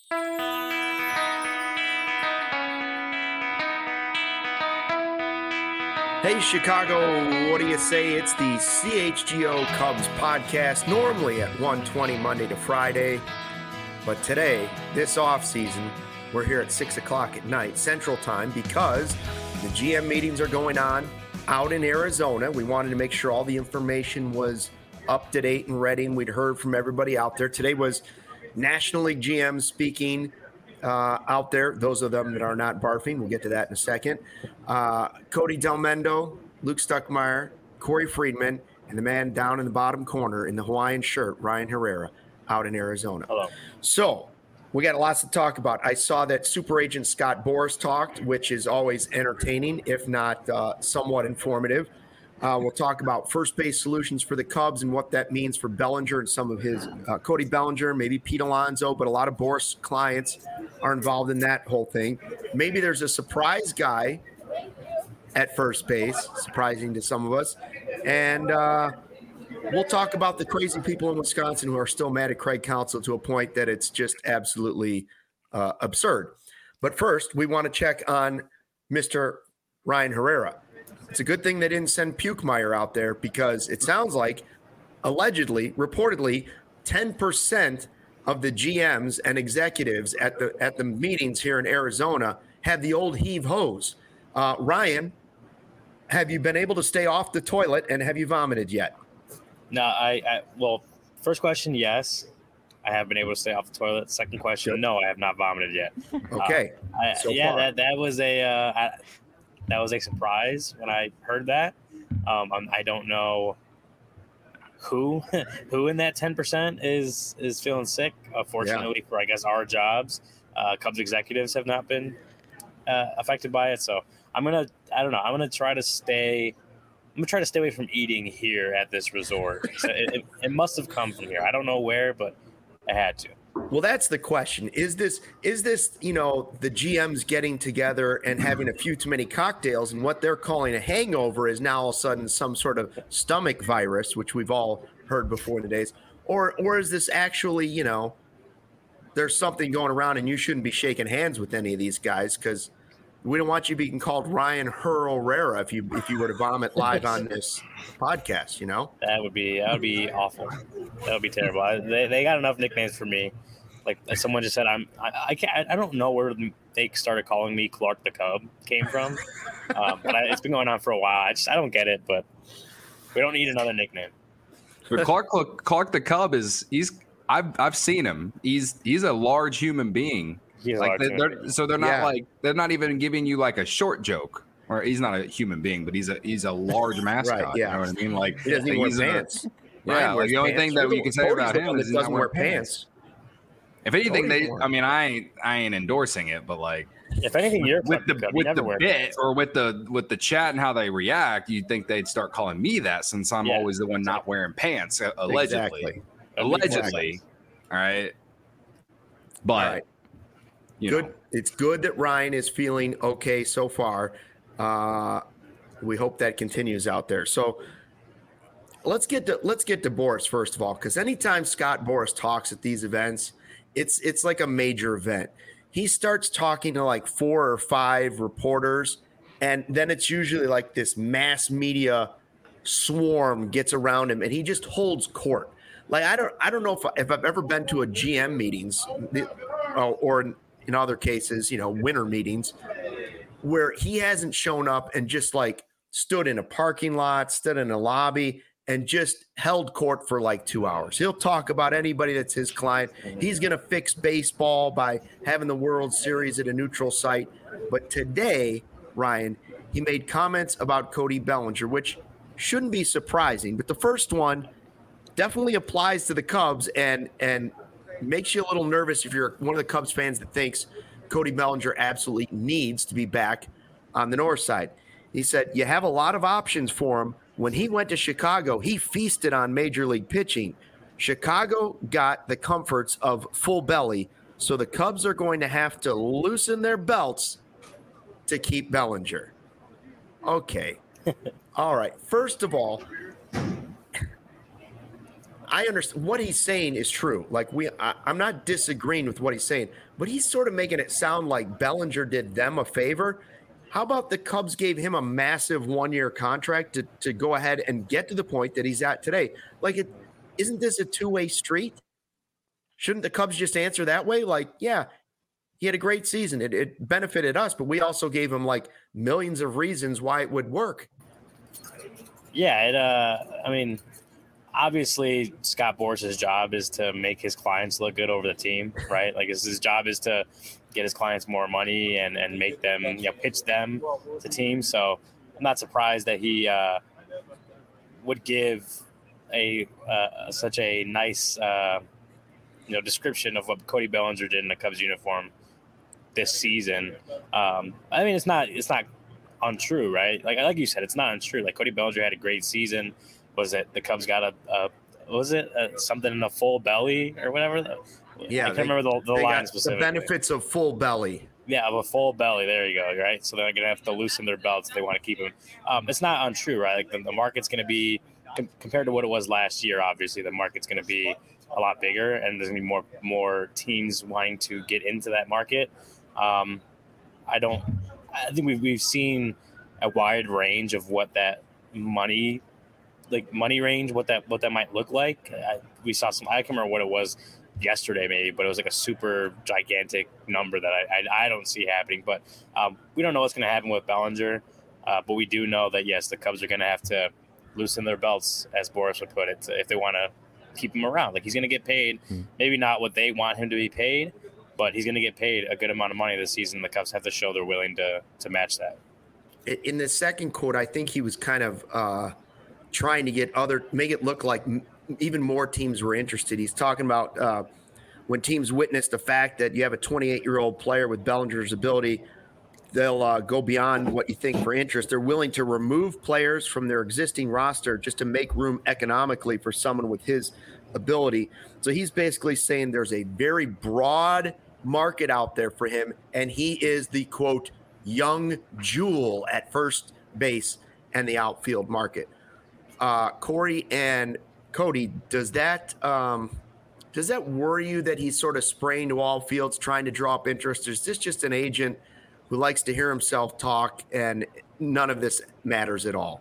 Hey, Chicago, what do you say? It's the CHGO Cubs podcast, normally at 1:20 Monday to Friday. But today, this offseason, we're here at 6 o'clock at night, Central Time, because the GM meetings are going on out in Arizona. We wanted to make sure all the information was up to date and ready, and we'd heard from everybody out there. Today was National League GMs speaking out there, those of them that are not barfing. We'll get to that in a second. Cody Delmendo, Luke Stuckmeyer, Corey Friedman, and the man down in the bottom corner in the Hawaiian shirt, Ryan Herrera, out in Arizona. Hello. So we got lots to talk about. I saw that super agent Scott Boras talked, which is always entertaining, if not somewhat informative. We'll talk about first base solutions for the Cubs and what that means for Bellinger and some of his Cody Bellinger, maybe Pete Alonso, but a lot of Boras clients are involved in that whole thing. Maybe there's a surprise guy at first base, surprising to some of us. And we'll talk about the crazy people in Wisconsin who are still mad at Craig Counsell to a point that it's just absolutely absurd. But first, we want to check on Mr. Ryan Herrera. It's a good thing they didn't send Pukemeyer out there, because it sounds like, allegedly, reportedly, 10% of the GMs and executives at the meetings here in Arizona have the old heave hose. Ryan, have you been able to stay off the toilet, and have you vomited yet? No, well, first question, yes, I have been able to stay off the toilet. Second question, Good. No, I have not vomited yet. Okay. That was a surprise when I heard that. I don't know who in that 10% is feeling sick. Fortunately for, I guess, our jobs, Cubs executives have not been affected by it. So I'm gonna try to stay away from eating here at this resort. So it must have come from here. I don't know where, but I had to. Well, that's the question. Is this, the GMs getting together and having a few too many cocktails, and what they're calling a hangover is now all of a sudden some sort of stomach virus, which we've all heard before the days, or is this actually, there's something going around and you shouldn't be shaking hands with any of these guys, because we don't want you being called Ryan Herrera if you were to vomit live on this podcast, That would be awful. That would be terrible. They got enough nicknames for me. Like someone just said, I don't know where they started calling me Clark the Cub came from, but it's been going on for a while. I don't get it, but we don't need another nickname. But Clark the Cub I've seen him. He's a large human being. They're not even giving you like a short joke. Or he's not a human being, but he's a large mascot. Right, yeah. You know what I mean? Like he doesn't even wear pants. Yeah, like the only thing that you can say about him is he doesn't wear pants. If anything, I ain't endorsing it, but like, if anything, you're with the bit or with the chat and how they react, you'd think they'd start calling me that, since I'm always the one not wearing pants, allegedly. Exactly. All right, but all right. Good. It's good that Ryan is feeling okay so far. We hope that continues out there. So let's get to Boras first of all, because anytime Scott Boras talks at these events, it's like a major event. He starts talking to like 4 or 5 reporters, and then it's usually like this mass media swarm gets around him, and he just holds court. Like I don't know if I've ever been to a GM meetings or in other cases, winter meetings, where he hasn't shown up and just like stood in a parking lot, stood in a lobby, and just held court for like 2 hours. He'll talk about anybody that's his client. He's going to fix baseball by having the World Series at a neutral site. But today, Ryan, he made comments about Cody Bellinger, which shouldn't be surprising. But the first one definitely applies to the Cubs and makes you a little nervous if you're one of the Cubs fans that thinks Cody Bellinger absolutely needs to be back on the north side. He said, you have a lot of options for him. When he went to Chicago, he feasted on major league pitching. Chicago got the comforts of full belly, so the Cubs are going to have to loosen their belts to keep Bellinger. Okay. All right. First of all, I understand what he's saying is true. Like I'm not disagreeing with what he's saying, but he's sort of making it sound like Bellinger did them a favor. How about the Cubs gave him a massive 1-year contract to go ahead and get to the point that he's at today? Like, isn't this a two-way street? Shouldn't the Cubs just answer that way? Like, yeah, he had a great season. It benefited us, but we also gave him like millions of reasons why it would work. Yeah, I mean, obviously Scott Boras's job is to make his clients look good over the team, right? Like his job is to get his clients more money and make them, pitch them to teams. So I'm not surprised that he would give such a nice description of what Cody Bellinger did in the Cubs uniform this season. I mean, it's not untrue, right? Like you said, it's not untrue. Like Cody Bellinger had a great season. Was it the Cubs got something in a full belly or whatever? Yeah, I can't remember the line specifically. The benefits of full belly. Yeah, of a full belly. There you go. Right. So they're gonna have to loosen their belts if they want to keep him. It's not untrue, right? Like the market's gonna be compared to what it was last year. Obviously, the market's gonna be a lot bigger, and there's gonna be more teams wanting to get into that market. I think we've seen a wide range of what that money range, what that might look like. We saw some. I can't remember what it was yesterday, maybe, but it was like a super gigantic number that I don't see happening. But we don't know what's going to happen with Bellinger. But we do know that yes, the Cubs are going to have to loosen their belts, as Boras would put it, if they want to keep him around. Like he's going to get paid, maybe not what they want him to be paid, but he's going to get paid a good amount of money this season. The Cubs have to show they're willing to match that. In the second quote, I think he was kind of trying to make it look like even more teams were interested. He's talking about when teams witness the fact that you have a 28-year-old player with Bellinger's ability, they'll go beyond what you think for interest. They're willing to remove players from their existing roster just to make room economically for someone with his ability. So he's basically saying there's a very broad market out there for him, and he is the, quote, young jewel at first base and the outfield market. Corey and Cody, does that worry you that he's sort of spraying to all fields trying to draw up interest? Is this just an agent who likes to hear himself talk and none of this matters at all?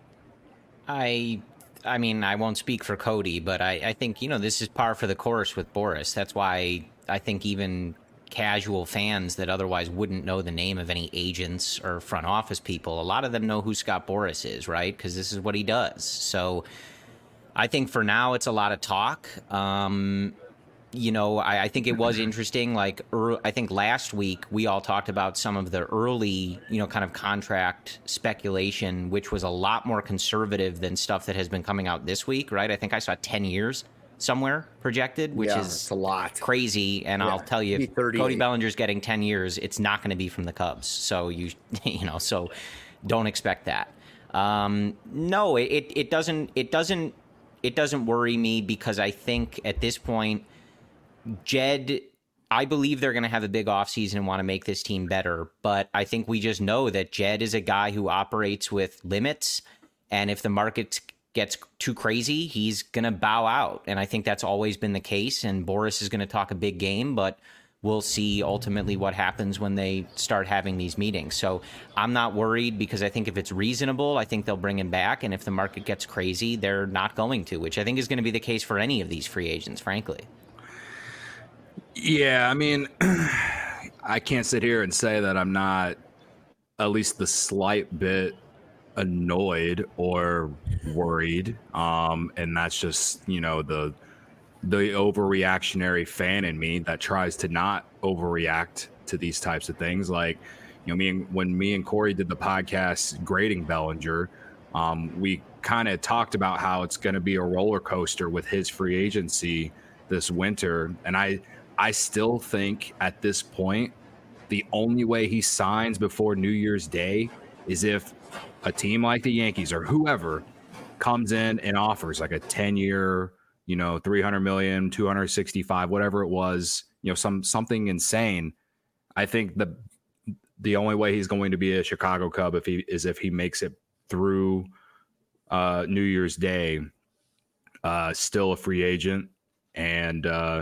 I mean, I won't speak for Cody, but I think, this is par for the course with Boras. That's why I think even casual fans that otherwise wouldn't know the name of any agents or front office people, a lot of them know who Scott Boras is, right? Because this is what he does. So I think for now it's a lot of talk. I think it was interesting. Like, I think last week we all talked about some of the early, kind of contract speculation, which was a lot more conservative than stuff that has been coming out this week, right? I think I saw 10 years somewhere projected, which is a lot crazy. And I'll tell you, if Cody Bellinger's getting 10 years, it's not going to be from the Cubs. So so don't expect that. No, it doesn't worry me, because I think at this point, Jed, I believe they're going to have a big offseason and want to make this team better. But I think we just know that Jed is a guy who operates with limits. And if the market gets too crazy, he's going to bow out. And I think that's always been the case. And Boras is going to talk a big game, but we'll see ultimately what happens when they start having these meetings. So I'm not worried, because I think if it's reasonable, I think they'll bring him back. And if the market gets crazy, they're not going to, which I think is going to be the case for any of these free agents, frankly. Yeah, I mean, I can't sit here and say that I'm not at least the slight bit annoyed or worried. And that's just, the overreactionary fan in me that tries to not overreact to these types of things. Like, when me and Corey did the podcast grading Bellinger, we kind of talked about how it's going to be a roller coaster with his free agency this winter. And I still think at this point, the only way he signs before New Year's Day is if a team like the Yankees or whoever comes in and offers like a 10-year, $300 million, 265, whatever it was, something insane. I think the only way he's going to be a Chicago Cub if he makes it through New Year's Day. still a free agent. And,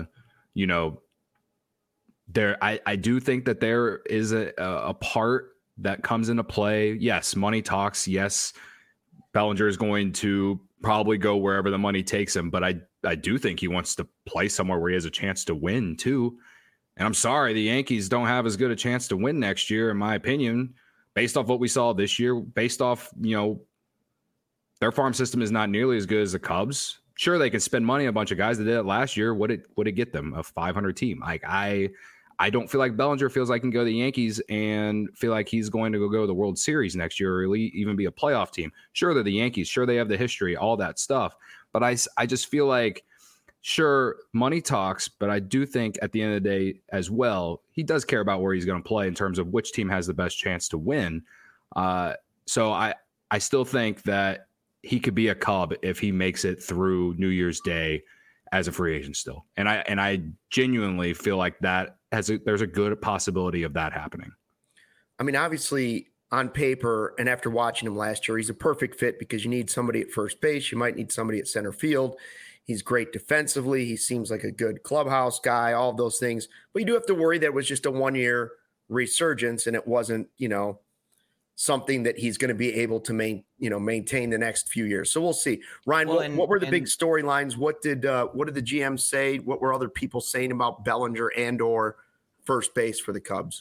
I do think that there is a part that comes into play. Yes, money talks. Yes, Bellinger is going to probably go wherever the money takes him, but I do think he wants to play somewhere where he has a chance to win too. And I'm sorry, the Yankees don't have as good a chance to win next year, in my opinion, based off what we saw this year, based off, their farm system is not nearly as good as the Cubs. Sure, they can spend money on a bunch of guys that did it last year. Would it get them a 500 team? Like I don't feel like Bellinger feels like he can go to the Yankees and feel like he's going to go to the World Series next year or even be a playoff team. Sure, they're the Yankees. Sure, they have the history, all that stuff. But I just feel like, sure, money talks, but I do think at the end of the day as well, he does care about where he's going to play in terms of which team has the best chance to win. So I still think that he could be a Cub if he makes it through New Year's Day as a free agent still. And I genuinely feel like that there's a good possibility of that happening. I mean, obviously on paper and after watching him last year, he's a perfect fit because you need somebody at first base. You might need somebody at center field. He's great defensively. He seems like a good clubhouse guy, all of those things. But you do have to worry that it was just a 1-year resurgence and it wasn't, something that he's going to be able to maintain the next few years. So we'll see. Ryan, what were the big storylines? What did the GM say? What were other people saying about Bellinger and or first base for the Cubs?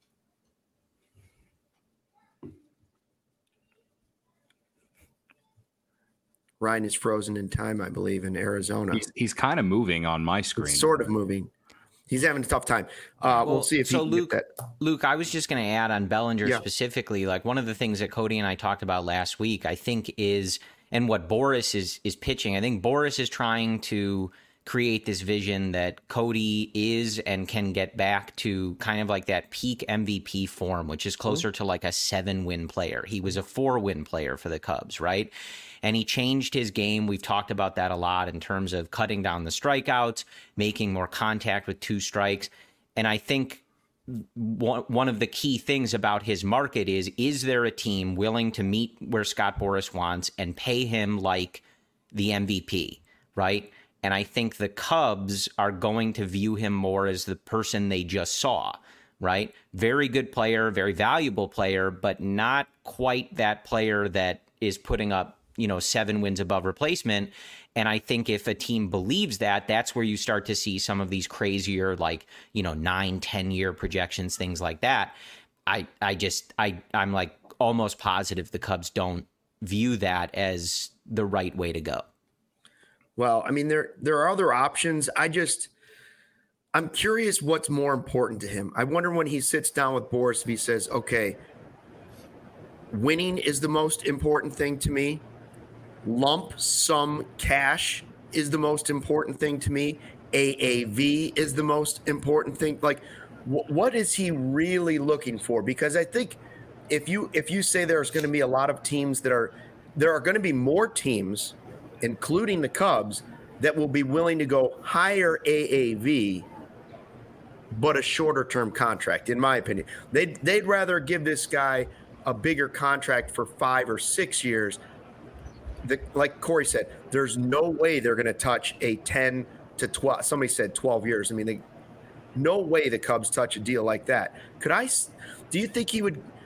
Ryan is frozen in time, I believe, in Arizona. He's kind of moving on my screen. He's sort of moving. He's having a tough time. We'll see if he can get that. Luke, I was just going to add on Bellinger specifically, like one of the things that Cody and I talked about last week, I think is, and what Boris is pitching, I think Boris is trying to create this vision that Cody is and can get back to kind of like that peak MVP form, which is closer to like a 7-win player. He was a 4-win player for the Cubs, right? And he changed his game. We've talked about that a lot in terms of cutting down the strikeouts, making more contact with 2 strikes. And I think one of the key things about his market is there a team willing to meet where Scott Boras wants and pay him like the MVP, right? And I think the Cubs are going to view him more as the person they just saw, right? Very good player, very valuable player, but not quite that player that is putting up 7 wins above replacement. And I think if a team believes that, that's where you start to see some of these crazier, 9-10 year projections, things like that. I'm like almost positive the Cubs don't view that as the right way to go. Well, I mean, there are other options. I'm curious what's more important to him. I wonder when he sits down with Boras if he says, okay, winning is the most important thing to me. Lump sum cash is the most important thing to me. AAV is the most important thing. Like, what is he really looking for? Because I think if you say there's going to be a lot of teams there are going to be more teams, including the Cubs, that will be willing to go higher AAV, but a shorter term contract, in my opinion. They'd rather give this guy a bigger contract for 5 or 6 years. Like Corey said, there's no way they're going to touch a 10 to 12. Somebody said 12 years. I mean, no way the Cubs touch a deal like that. Do you think he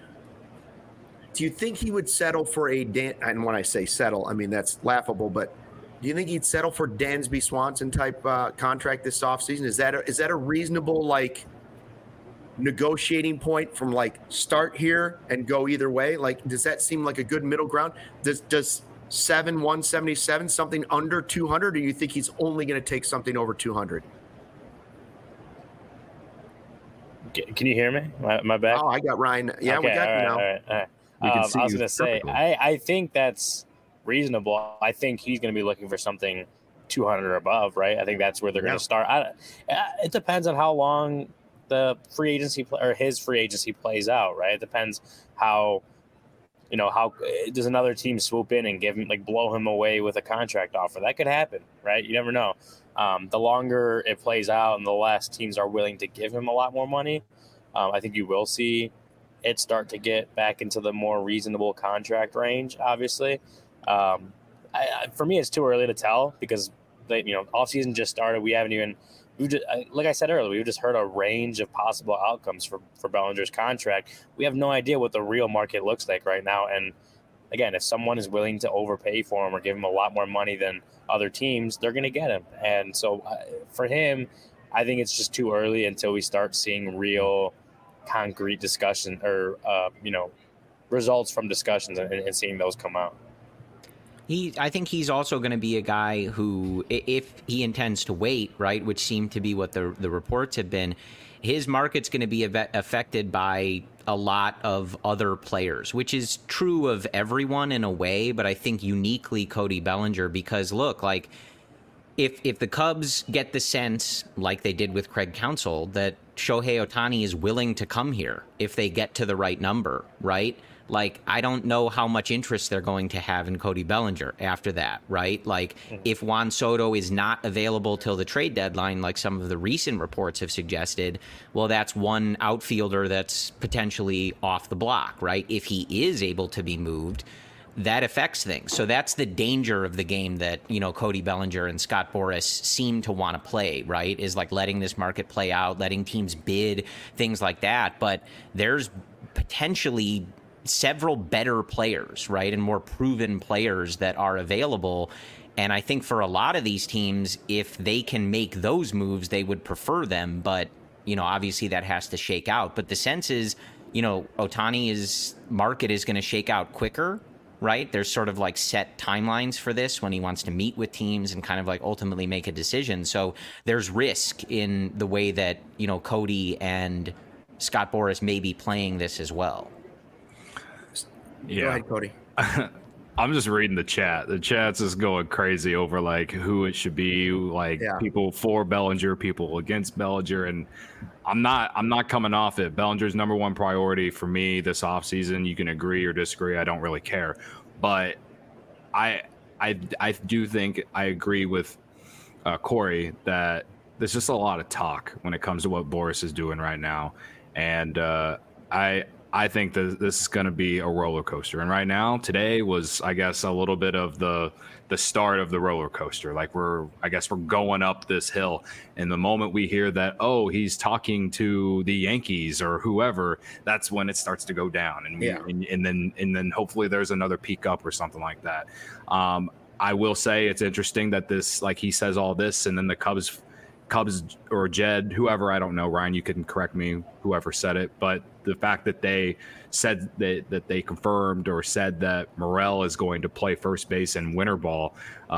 would settle for and when I say settle, I mean, that's laughable, but do you think he'd settle for Dansby Swanson type contract this offseason? Is that a reasonable, negotiating point from start here and go either way? Does that seem like a good middle ground? Does 177 something under 200, or do you think he's only going to take something over 200? Can you hear me? My back? Oh, I got Ryan. Yeah, okay, we got you now. All right. I was going to say, I think that's reasonable. I think he's going to be looking for something 200 or above, right? I think that's where they're going to start. It depends on how long the free agency or his free agency plays out, right? It depends how does another team swoop in and give him blow him away with a contract offer? That could happen, right? You never know. The longer it plays out and the less teams are willing to give him a lot more money, I think you will see it start to get back into the more reasonable contract range, obviously. For me, it's too early to tell because offseason just started. We haven't even. Like I said earlier, we've just heard a range of possible outcomes for Bellinger's contract. We have no idea what the real market looks like right now. And again, if someone is willing to overpay for him or give him a lot more money than other teams, they're going to get him. And so for him, I think it's just too early until we start seeing real concrete discussion or, results from discussions and seeing those come out. I think he's also going to be a guy who, if he intends to wait, right, which seemed to be what the reports have been, his market's going to be affected by a lot of other players, which is true of everyone in a way, but I think uniquely Cody Bellinger, because look, like if the Cubs get the sense, like they did with Craig Counsell, that Shohei Ohtani is willing to come here if they get to the right number, right? Like, I don't know how much interest they're going to have in Cody Bellinger after that, right? Like, if Juan Soto is not available till the trade deadline, like some of the recent reports have suggested, well, that's one outfielder that's potentially off the block, right? If he is able to be moved, that affects things. So that's the danger of the game that, Cody Bellinger and Scott Boras seem to want to play, right? Is like letting this market play out, letting teams bid, things like that. But there's potentially several better players, right, and more proven players that are available. And I think for a lot of these teams, if they can make those moves, they would prefer them. But, obviously that has to shake out. But the sense is, Ohtani's market is going to shake out quicker, right? There's sort of like set timelines for this when he wants to meet with teams and kind of like ultimately make a decision. So there's risk in the way that, Cody and Scott Boras may be playing this as well. Yeah. Go ahead, Cody. I'm just reading the chat. The chat's just going crazy over like who it should be, people for Bellinger, people against Bellinger, and I'm not coming off it. Bellinger's number one priority for me this offseason. You can agree or disagree. I don't really care. But I do think I agree with Corey that there's just a lot of talk when it comes to what Boras is doing right now. And I think that this is going to be a roller coaster. And right now, today was, I guess, a little bit of the start of the roller coaster. Like we're going up this hill. And the moment we hear that, he's talking to the Yankees or whoever, that's when it starts to go down. And then hopefully there's another peak up or something like that. I will say it's interesting that this, like he says all this, and then the Cubs or Jed, whoever, I don't know, Ryan, you can correct me, whoever said it, but the fact that they said that they confirmed or said that Morel is going to play first base in winter ball,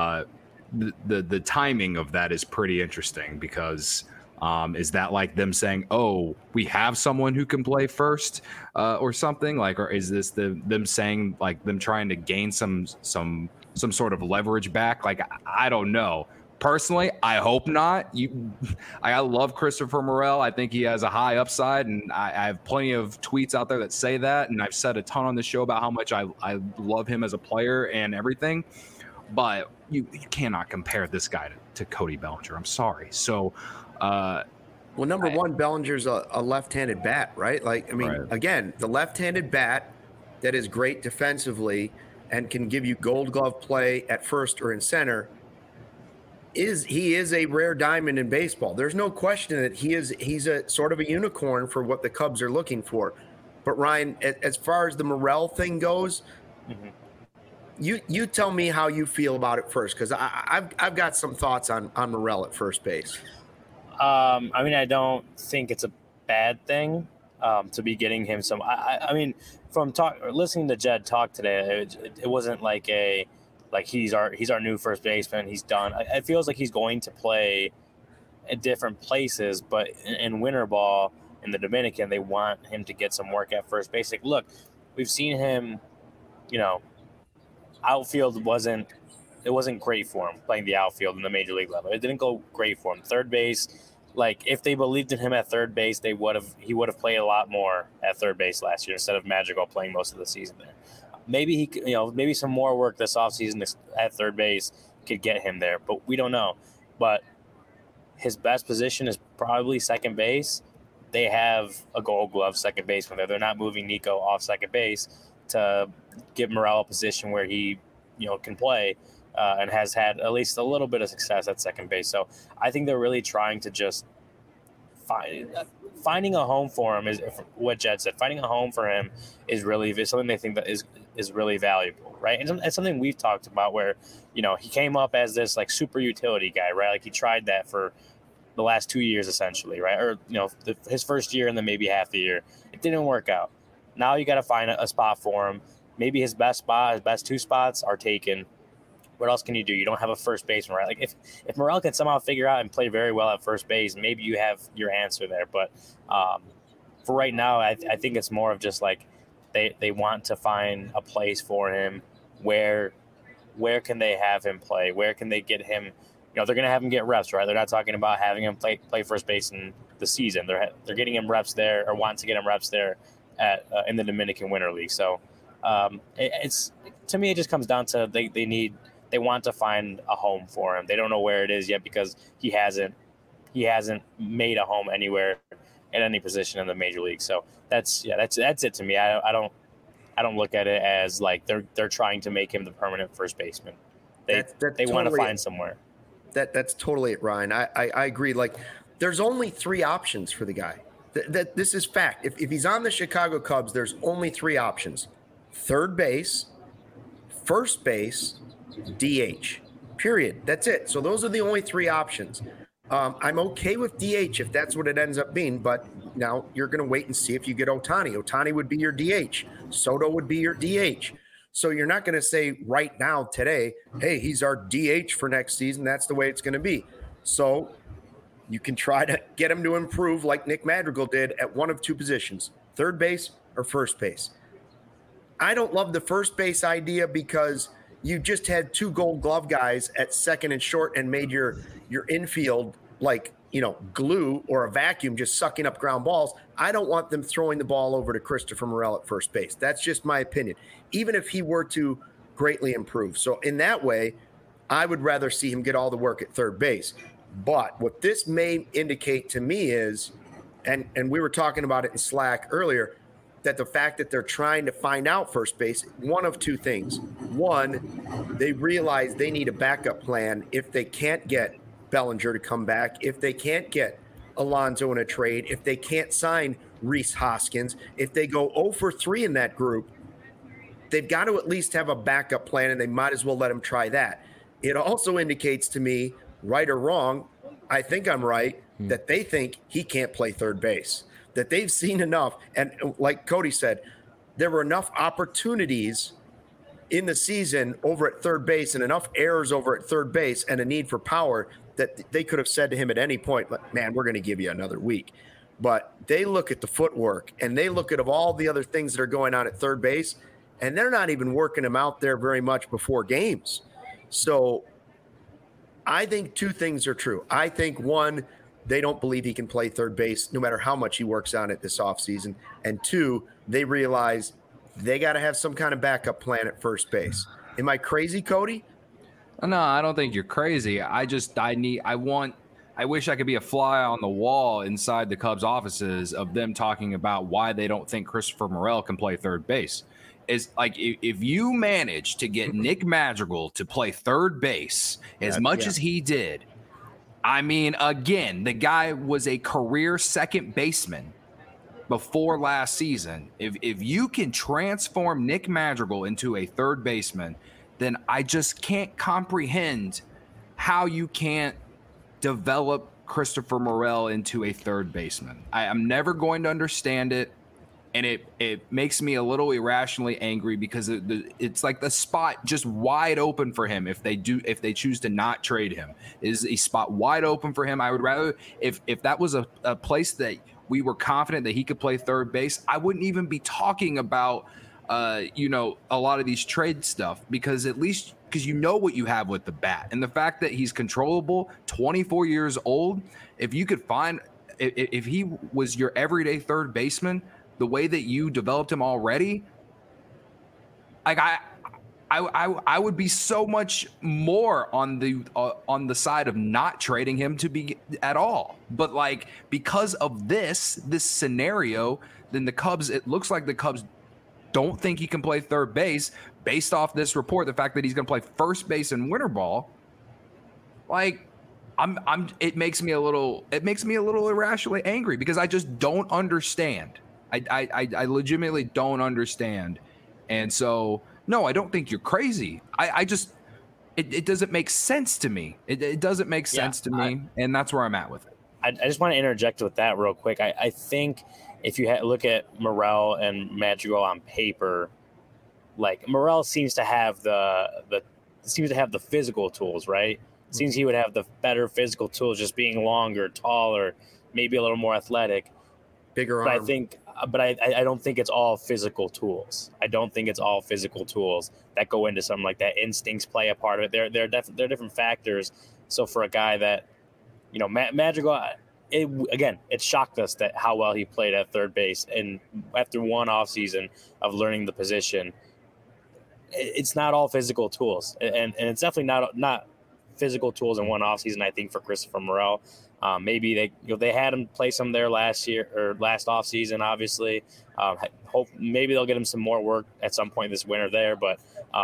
the timing of that is pretty interesting because is that like them saying, we have someone who can play first or something, like, or is this them saying like them trying to gain some sort of leverage back? Like, I don't know. Personally, I hope not. I love Christopher Morel. I think he has a high upside, and I have plenty of tweets out there that say that, and I've said a ton on the show about how much I love him as a player and everything. But you cannot compare this guy to Cody Bellinger. I'm sorry. So, number one, Bellinger's a left-handed bat, right? Like, I mean, Again, the left-handed bat that is great defensively and can give you Gold Glove play at first or in center. He is a rare diamond in baseball. There's no question that he's a sort of a unicorn for what the Cubs are looking for. But Ryan, as far as the Morel thing goes, you tell me how you feel about it first, because I've got some thoughts on Morel at first base. I don't think it's a bad thing to be getting him some. I mean, from listening to Jed talk today, it wasn't like he's our new first baseman. He's done. It feels like he's going to play at different places, but in winter ball in the Dominican, they want him to get some work at first base. Like, look, we've seen him. Outfield wasn't great for him playing the outfield in the major league level. It didn't go great for him. Third base, like if they believed in him at third base, he would have played a lot more at third base last year instead of Madrigal playing most of the season there. Maybe maybe some more work this offseason at third base could get him there, but we don't know. But his best position is probably second base. They have a Gold Glove second baseman there. They're not moving Nico off second base to give Morel a position where he, can play. and has had at least a little bit of success at second base. So I think they're really trying to just finding a home for him is what Jed said. Finding a home for him is something they think that is really valuable, right? And it's something we've talked about where, you know, he came up as this like super utility guy, right? Like he tried that for the last 2 years essentially, right? Or, you know, his first year and then maybe half the year. It didn't work out. Now you got to find a spot for him. Maybe his best 2 spots are taken. What else can you do? You don't have a first baseman, right? Like if Morel can somehow figure out and play very well at first base, maybe you have your answer there. But for right now, I think it's more of just like they want to find a place for him. Where can they have him play? Where can they get him? You know, they're going to have him get reps, right? They're not talking about having him play first base in the season. They're getting him reps there, or want to get him reps there at in the Dominican Winter League. So it's to me, it just comes down to they want to find a home for him. They don't know where it is yet because he hasn't made a home anywhere at any position in the major league. So that's it to me. I don't look at it as like they're trying to make him the permanent first baseman. They want to find somewhere. That's totally it, Ryan. I agree. Like, there's only 3 options for the guy. This is fact. If he's on the Chicago Cubs, there's only 3 options: third base, first base, DH. Period. That's it. So those are the only 3 options. I'm okay with DH if that's what it ends up being, but now you're going to wait and see if you get Ohtani. Ohtani would be your DH. Soto would be your DH. So you're not going to say right now, today, hey, he's our DH for next season. That's the way it's going to be. So you can try to get him to improve like Nick Madrigal did at one of 2 positions, third base or first base. I don't love the first base idea because you just had 2 Gold Glove guys at second and short and made your infield like, you know, glue or a vacuum just sucking up ground balls. I don't want them throwing the ball over to Christopher Morel at first base. That's just my opinion, even if he were to greatly improve. So in that way, I would rather see him get all the work at third base. But what this may indicate to me is, and we were talking about it in Slack earlier, that the fact that they're trying to find out first base, one of 2 things. One, they realize they need a backup plan if they can't get Bellinger to come back, if they can't get Alonso in a trade, if they can't sign Rhys Hoskins, if they go 0 for 3 in that group, they've got to at least have a backup plan, and they might as well let them try that. It also indicates to me, right or wrong, I think I'm right, that they think he can't play third base, that they've seen enough. And like Cody said, there were enough opportunities in the season over at third base and enough errors over at third base and a need for power that they could have said to him at any point, man, we're going to give you another week. But they look at the footwork and they look at all the other things that are going on at third base, and they're not even working him out there very much before games. So I think 2 things are true. I think, one, they don't believe he can play third base no matter how much he works on it this offseason. And 2, they realize they got to have some kind of backup plan at first base. Am I crazy, Cody? No, I don't think you're crazy. I wish I could be a fly on the wall inside the Cubs offices of them talking about why they don't think Christopher Morel can play third base. Is like, if you manage to get Nick Madrigal to play third base as much as he did, I mean, again, the guy was a career second baseman before last season. If you can transform Nick Madrigal into a third baseman, then I just can't comprehend how you can't develop Christopher Morel into a third baseman. I'm never going to understand it. And it makes me a little irrationally angry because it's like the spot just wide open for him. If they choose to not trade him, is a spot wide open for him. I would rather, if that was a place that we were confident that he could play third base, I wouldn't even be talking about a lot of these trade stuff, because at least because you know what you have with the bat, and the fact that he's controllable, 24 years old. If you could find, if he was your everyday third baseman, the way that you developed him already, like I would be so much more on the side of not trading him to be at all. But like, because of this scenario, then it looks like the Cubs don't think he can play third base, based off this report, the fact that he's going to play first base in winter ball, like it makes me a little irrationally angry because I just don't understand. I legitimately don't understand. And so, no, I don't think you're crazy. I just, it doesn't make sense to me. It doesn't make sense to me. And that's where I'm at with it. I just want to interject with that real quick. I think if you look at Morel and Madrigal on paper, like Morel seems to have the physical tools, right? It seems he would have the better physical tools, just being longer, taller, maybe a little more athletic, bigger arm. But I don't think it's all physical tools. I don't think it's all physical tools that go into something like that. Instincts play a part of it. There are different factors. So for a guy that, Madrigal, it shocked us that how well he played at third base. And after one offseason of learning the position, it's not all physical tools. And it's definitely not physical tools in one offseason, I think, for Christopher Morel. Maybe they had him play some there last year or last offseason, obviously. Hope maybe they'll get him some more work at some point this winter there. But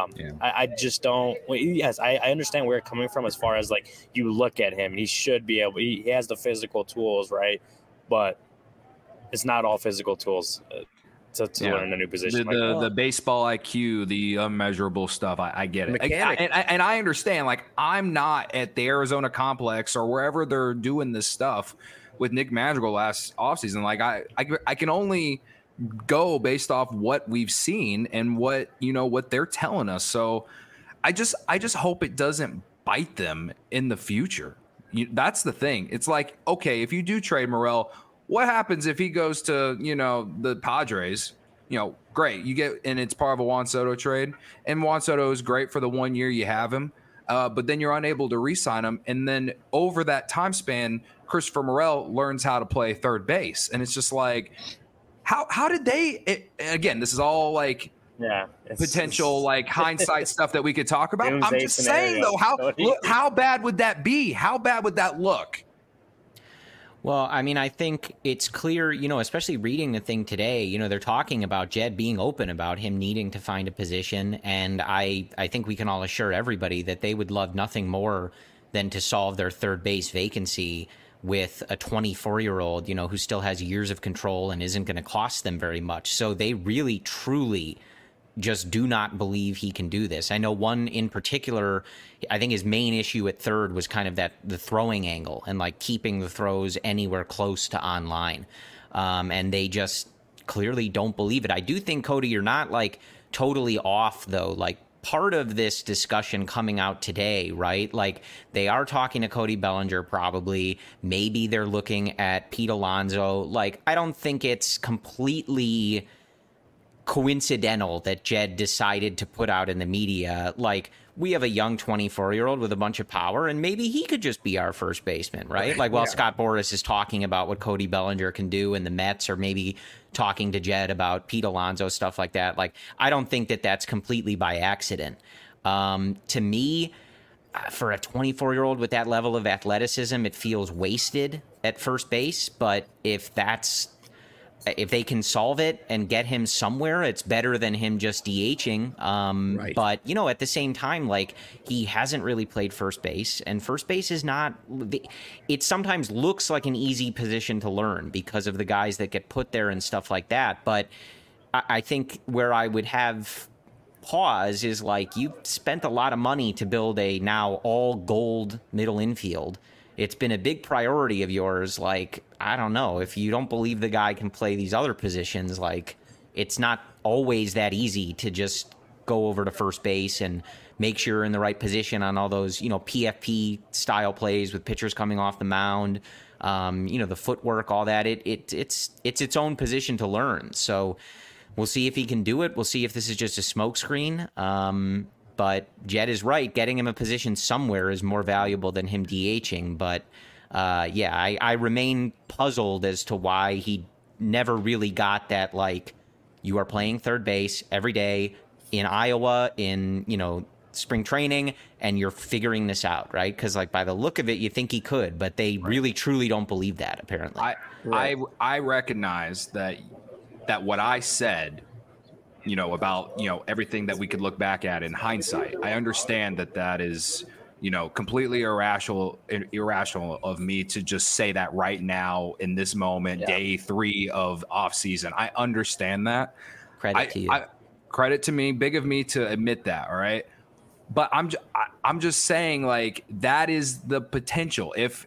I just don't. Yes, I understand where you're coming from as far as like you look at him. He should be able. He has the physical tools, right? But it's not all physical tools to learn a new position. The baseball IQ, the unmeasurable stuff. I get it. And I understand. Like, I'm not at the Arizona complex or wherever they're doing this stuff with Nick Madrigal last offseason. Like, I can only go based off what we've seen and what they're telling us. So I just hope it doesn't bite them in the future. That's the thing. It's like, okay, if you do trade Morel, what happens if he goes to, the Padres? Great. You get, and it's part of a Juan Soto trade. And Juan Soto is great for the 1 year you have him. But then you're unable to re-sign him. And then over that time span, Christopher Morel learns how to play third base. And it's just like, how did they, again, this is all like potential like hindsight stuff that we could talk about. I'm just saying though, how bad would that be? How bad would that look? Well, I mean, I think it's clear, especially reading the thing today, they're talking about Jed being open about him needing to find a position. And I think we can all assure everybody that they would love nothing more than to solve their third base vacancy with a 24-year-old, who still has years of control and isn't going to cost them very much. So they really, truly just do not believe he can do this. I know one in particular, I think his main issue at third was kind of the throwing angle and like keeping the throws anywhere close to online. And they just clearly don't believe it. I do think, Cody, you're not like totally off though. Like part of this discussion coming out today, right? Like they are talking to Cody Bellinger probably. Maybe they're looking at Pete Alonso. Like I don't think it's completely coincidental that Jed decided to put out in the media, like, we have a young 24-year-old with a bunch of power, and maybe he could just be our first baseman, right? Like, while Scott Boras is talking about what Cody Bellinger can do, and the Mets are maybe talking to Jed about Pete Alonso, stuff like that. Like, I don't think that that's completely by accident. To me, for a 24-year-old with that level of athleticism, it feels wasted at first base. But if they can solve it and get him somewhere, it's better than him just DHing. Right. But, at the same time, like, he hasn't really played first base, and first base is not – it sometimes looks like an easy position to learn because of the guys that get put there and stuff like that. But I think where I would have pause is, like, you've spent a lot of money to build a now all-gold middle infield. It's been a big priority of yours. Like, I don't know, if you don't believe the guy can play these other positions, like, it's not always that easy to just go over to first base and make sure you're in the right position on all those, PFP style plays with pitchers coming off the mound, the footwork, all that. It's its own position to learn. So we'll see if he can do it. We'll see if this is just a smokescreen. But Jed is right. Getting him a position somewhere is more valuable than him DHing. But, I remain puzzled as to why he never really got that, like, you are playing third base every day in Iowa in, spring training, and you're figuring this out, right? Because, like, by the look of it, you think he could, but they really, truly don't believe that, apparently. I recognize that what I said about everything that we could look back at in hindsight. I understand that is completely irrational of me to just say that right now in this moment, day 3 of off season. I understand that. Credit to you. Credit to me, big of me to admit that. All right. But I'm just saying, like, that is the potential. If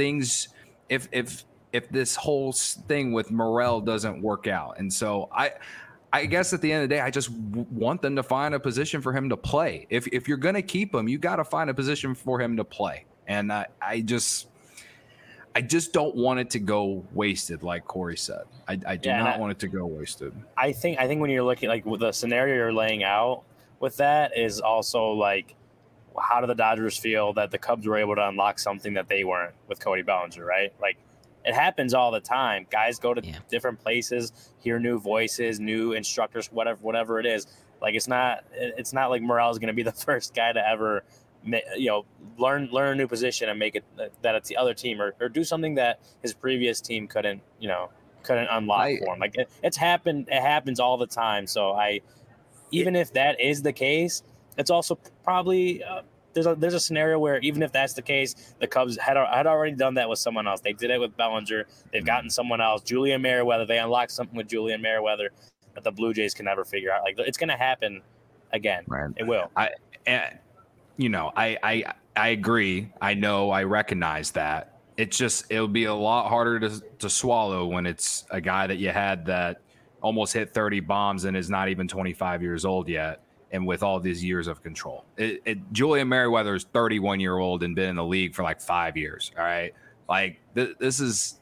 this whole thing with Morel doesn't work out. And so I guess at the end of the day, I just want them to find a position for him to play. If you're going to keep him, you got to find a position for him to play. And I just don't want it to go wasted, like Corey said. I do not want it to go wasted. I think when you're looking, like, with the scenario you're laying out with that is also, like, how do the Dodgers feel that the Cubs were able to unlock something that they weren't with Cody Bellinger, right? Like, it happens all the time. Guys go to different places, hear new voices, new instructors, whatever it is. Like, it's not like Morel is going to be the first guy to ever, learn a new position and make it that it's the other team or do something that his previous team couldn't unlock for him. Like, it happens all the time. So even if that is the case, it's also probably there's a scenario where even if that's the case, the Cubs had already done that with someone else. They did it with Bellinger. They've gotten someone else, Julian Merryweather. They unlocked something with Julian Merryweather that the Blue Jays can never figure out. Like, it's going to happen again. Right. It will. I agree. I know. I recognize that. It'll be a lot harder to swallow when it's a guy that you had that almost hit 30 bombs and is not even 25 years old yet. And with all these years of control, Julian Merryweather is 31-year-old and been in the league for like 5 years. All right, like this is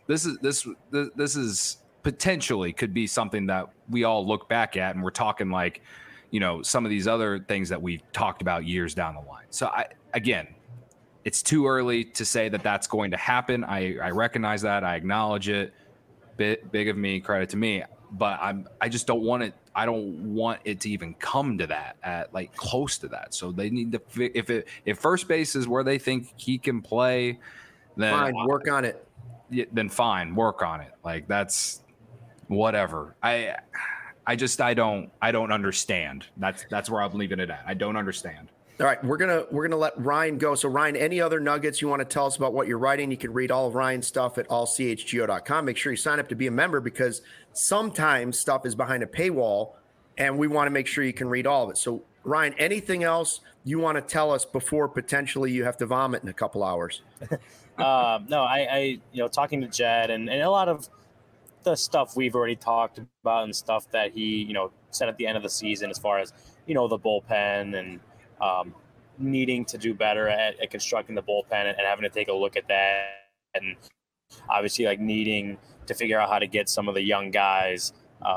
potentially could be something that we all look back at, and we're talking like, some of these other things that we talked about years down the line. So again, it's too early to say that that's going to happen. I recognize that. I acknowledge it. Big of me, credit to me. But I just don't want it. I don't want it to even come to that, at like close to that. So they need to if first base is where they think he can play, then fine, work on it. Then fine, work on it. Like, that's whatever. I don't understand. That's where I'm leaving it at. I don't understand. All right, we're gonna let Ryan go. So Ryan, any other nuggets you want to tell us about what you're writing? You can read all of Ryan's stuff at allchgo.com. Make sure you sign up to be a member, because sometimes stuff is behind a paywall, and we want to make sure you can read all of it. So Ryan, anything else you want to tell us before potentially you have to vomit in a couple hours? No, I talking to Jed and a lot of the stuff we've already talked about and stuff that he said at the end of the season, as far as the bullpen and needing to do better at constructing the bullpen and having to take a look at that, and obviously like needing to figure out how to get some of the young guys,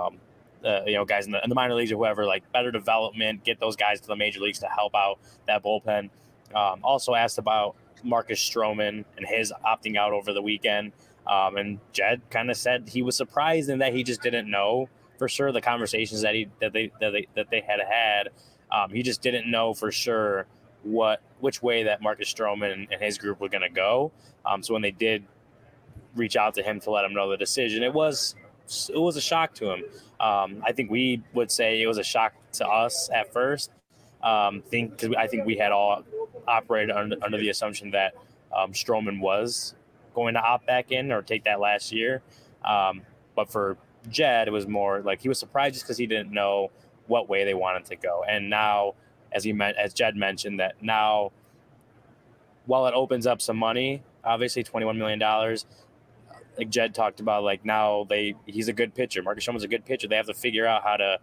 guys in the minor leagues or whoever, like better development, get those guys to the major leagues to help out that bullpen. Also asked about Marcus Stroman and his opting out over the weekend. And Jed kind of said he was surprised in that he just didn't know for sure the conversations that they had. He just didn't know for sure which way that Marcus Stroman and his group were going to go. So when they did reach out to him to let him know the decision, it was a shock to him. I think we would say it was a shock to us at first. I think we had all operated under the assumption that Stroman was going to opt back in or take that last year. But for Jed, it was more like he was surprised just because he didn't know what way they wanted to go. And now, as Jed mentioned, that now, while it opens up some money, obviously $21 million, like Jed talked about, like now he's a good pitcher. Marcus Stroman's a good pitcher. They have to figure out how to,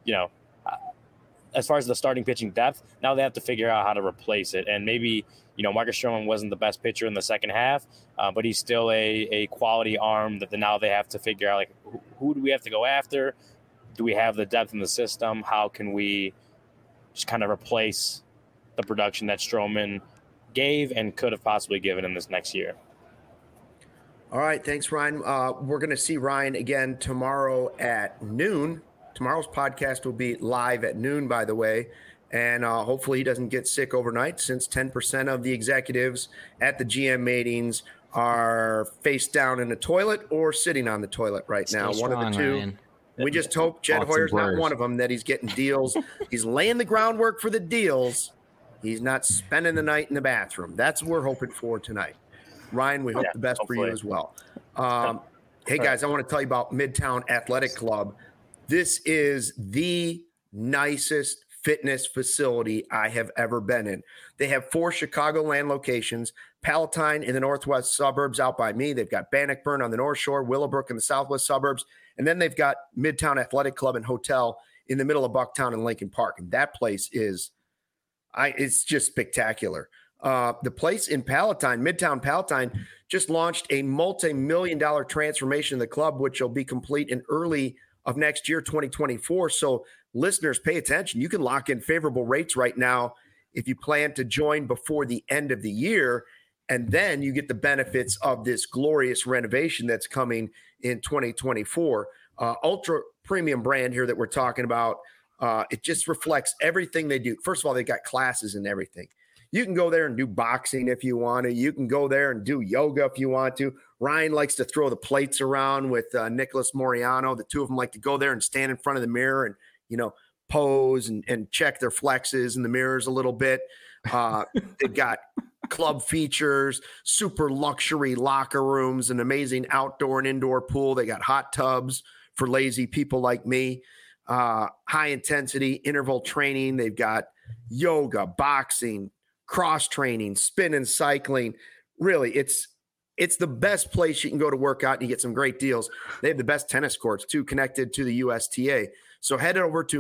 as far as the starting pitching depth, now they have to figure out how to replace it. And maybe, Marcus Stroman wasn't the best pitcher in the second half, but he's still a quality arm that now they have to figure out, like, who do we have to go after? Do we have the depth in the system? How can we just kind of replace the production that Stroman gave and could have possibly given in this next year? All right. Thanks, Ryan. We're going to see Ryan again tomorrow at noon. Tomorrow's podcast will be live at noon, by the way. And hopefully he doesn't get sick overnight, since 10% of the executives at the GM meetings are face down in the toilet or sitting on the toilet right now. One of the two. Ryan. We just hope Jed Hoyer's not one of them, that he's getting deals. He's laying the groundwork for the deals. He's not spending the night in the bathroom. That's what we're hoping for tonight. Ryan, we hope the best for you as well. Hey, guys, I want to tell you about Midtown Athletic Club. This is the nicest fitness facility I have ever been in. They have 4 Chicagoland locations, Palatine in the northwest suburbs out by me. They've got Bannockburn on the north shore, Willowbrook in the southwest suburbs. And then they've got Midtown Athletic Club and Hotel in the middle of Bucktown and Lincoln Park. And that place is, it's just spectacular. The place in Palatine, Midtown Palatine, just launched a multi-million-dollar transformation of the club, which will be complete in early of next year, 2024. So listeners, pay attention. You can lock in favorable rates right now if you plan to join before the end of the year. And then you get the benefits of this glorious renovation that's coming in 2024. Ultra premium brand here that we're talking about. It just reflects everything they do. First of all, they got classes and everything. You can go there and do boxing if you want to. You can go there and do yoga if you want to. Ryan likes to throw the plates around with Nicholas Moriano. The two of them like to go there and stand in front of the mirror and, pose and check their flexes in the mirrors a little bit. They've got club features, super luxury locker rooms, an amazing outdoor and indoor pool. They got hot tubs for lazy people like me, high intensity interval training. They've got yoga, boxing, cross training, spin and cycling. Really, it's the best place you can go to work out and you get some great deals. They have the best tennis courts too, connected to the USTA. So head over to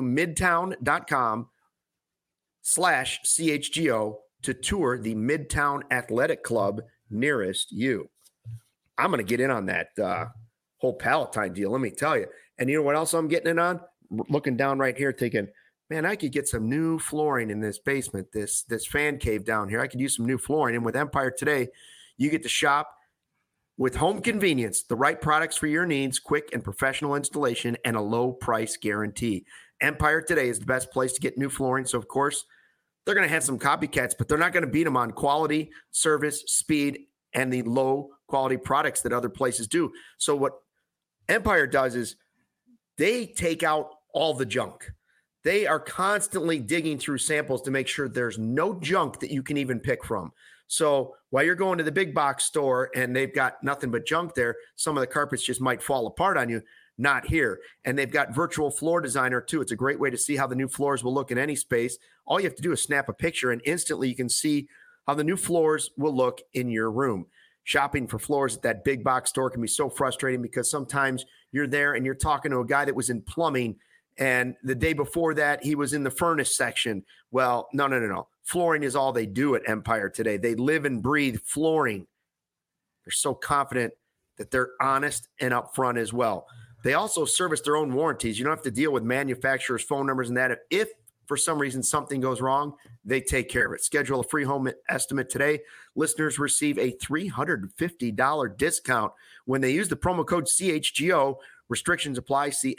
midtown.com/CHGO to tour the Midtown Athletic Club nearest you. I'm going to get in on that whole Palatine deal, let me tell you. And you know what else I'm getting in on? Looking down right here thinking, man, I could get some new flooring in this basement, this fan cave down here. I could use some new flooring. And with Empire Today, you get to shop with home convenience, the right products for your needs, quick and professional installation, and a low price guarantee. Empire Today is the best place to get new flooring. So, of course, they're going to have some copycats, but they're not going to beat them on quality, service, speed, and the low quality products that other places do. So what Empire does is they take out all the junk. They are constantly digging through samples to make sure there's no junk that you can even pick from. So while you're going to the big box store and they've got nothing but junk there, some of the carpets just might fall apart on you. Not here. And they've got virtual floor designer too. It's a great way to see how the new floors will look in any space. All you have to do is snap a picture and instantly you can see how the new floors will look in your room. Shopping for floors at that big box store can be so frustrating because sometimes you're there and you're talking to a guy that was in plumbing and the day before that he was in the furnace section. Well, no. Flooring is all they do at Empire Today. They live and breathe flooring. They're so confident that they're honest and upfront as well. They also service their own warranties. You don't have to deal with manufacturers' phone numbers and that. If for some reason something goes wrong, they take care of it. Schedule a free home estimate today. Listeners receive a $350 discount when they use the promo code CHGO. Restrictions apply. See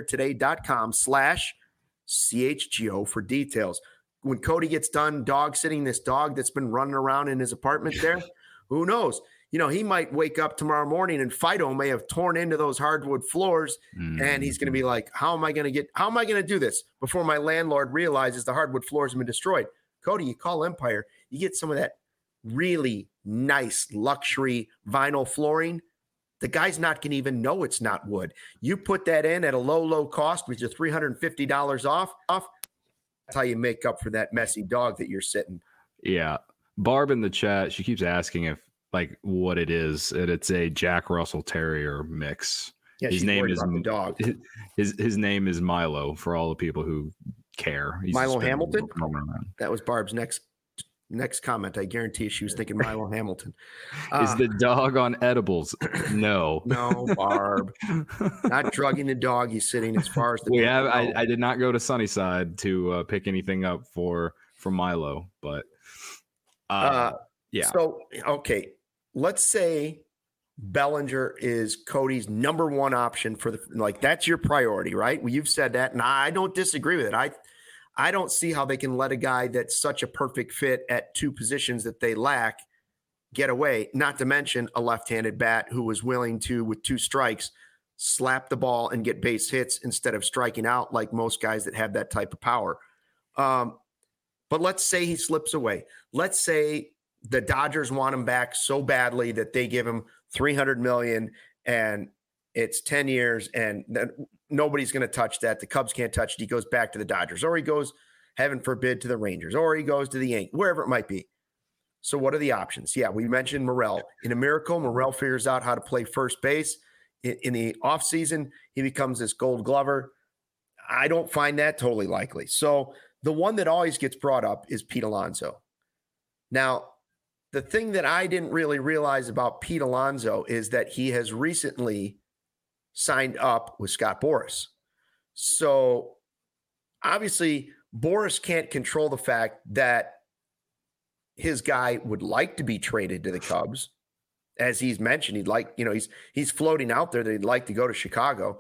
EmpireToday.com/CHGO for details. When Cody gets done dog sitting this dog that's been running around in his apartment there, who knows? He might wake up tomorrow morning and Fido may have torn into those hardwood floors and he's going to be like, how am I going to do this before my landlord realizes the hardwood floors have been destroyed? Cody, you call Empire, you get some of that really nice luxury vinyl flooring. The guy's not going to even know it's not wood. You put that in at a low cost with your $350 off. That's how you make up for that messy dog that you're sitting. Yeah. Barb in the chat, she keeps asking if what it is, and it's a Jack Russell Terrier mix. Yeah, his name is the dog. His name is Milo for all the people who care. Milo Hamilton. That was Barb's next comment. I guarantee she was thinking Milo Hamilton. Is the dog on edibles? No, Barb. Not drugging the dog. He's sitting as far as the. I did not go to Sunnyside to pick anything up for Milo, but yeah. So okay. Let's say Bellinger is Cody's number one option for that's your priority, right? Well, you've said that, and I don't disagree with it. I don't see how they can let a guy that's such a perfect fit at two positions that they lack get away, not to mention a left-handed bat who was willing to, with two strikes, slap the ball and get base hits instead of striking out like most guys that have that type of power. But let's say he slips away. Let's say the Dodgers want him back so badly that they give him $300 million and it's 10 years and nobody's going to touch that. The Cubs can't touch it. He goes back to the Dodgers, or he goes, heaven forbid, to the Rangers, or he goes to the Yankees, wherever it might be. So what are the options? Yeah, we mentioned Morel. In a miracle, Morel figures out how to play first base. In the offseason, he becomes this Gold Glover. I don't find that totally likely. So the one that always gets brought up is Pete Alonso. Now, the thing that I didn't really realize about Pete Alonso is that he has recently signed up with Scott Boras. So obviously, Boras can't control the fact that his guy would like to be traded to the Cubs. As he's mentioned, he'd like, he's floating out there that he'd like to go to Chicago.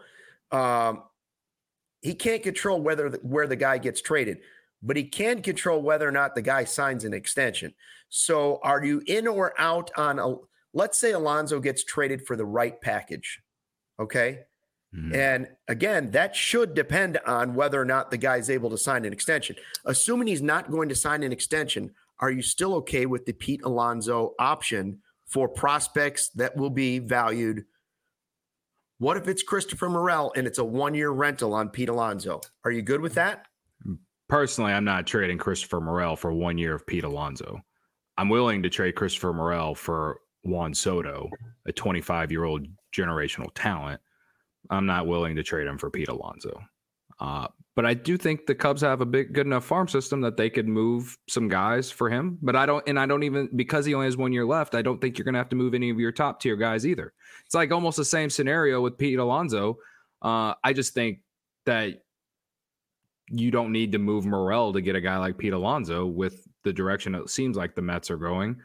He can't control where the guy gets traded, but he can control whether or not the guy signs an extension. So are you in or out on let's say Alonso gets traded for the right package. Okay. Mm-hmm. And again, that should depend on whether or not the guy's able to sign an extension. Assuming he's not going to sign an extension, are you still okay with the Pete Alonso option for prospects that will be valued? What if it's Christopher Morel and it's a 1-year rental on Pete Alonso? Are you good with that? Personally, I'm not trading Christopher Morel for 1 year of Pete Alonso. I'm willing to trade Christopher Morel for Juan Soto, a 25-year-old generational talent. I'm not willing to trade him for Pete Alonso. But I do think the Cubs have a good enough farm system that they could move some guys for him. But I don't even, because he only has 1 year left, I don't think you're going to have to move any of your top tier guys either. It's like almost the same scenario with Pete Alonso. I just think that you don't need to move Morel to get a guy like Pete Alonso with the direction it seems like the Mets are going.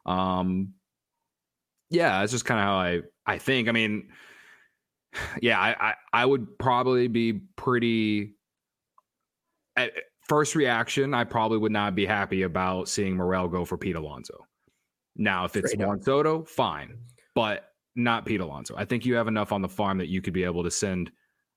Yeah, it's just kind of how I think. I mean, yeah, I would probably be pretty. At first reaction, I probably would not be happy about seeing Morel go for Pete Alonso. Now, if it's Juan Soto, fine, but not Pete Alonso. I think you have enough on the farm that you could be able to send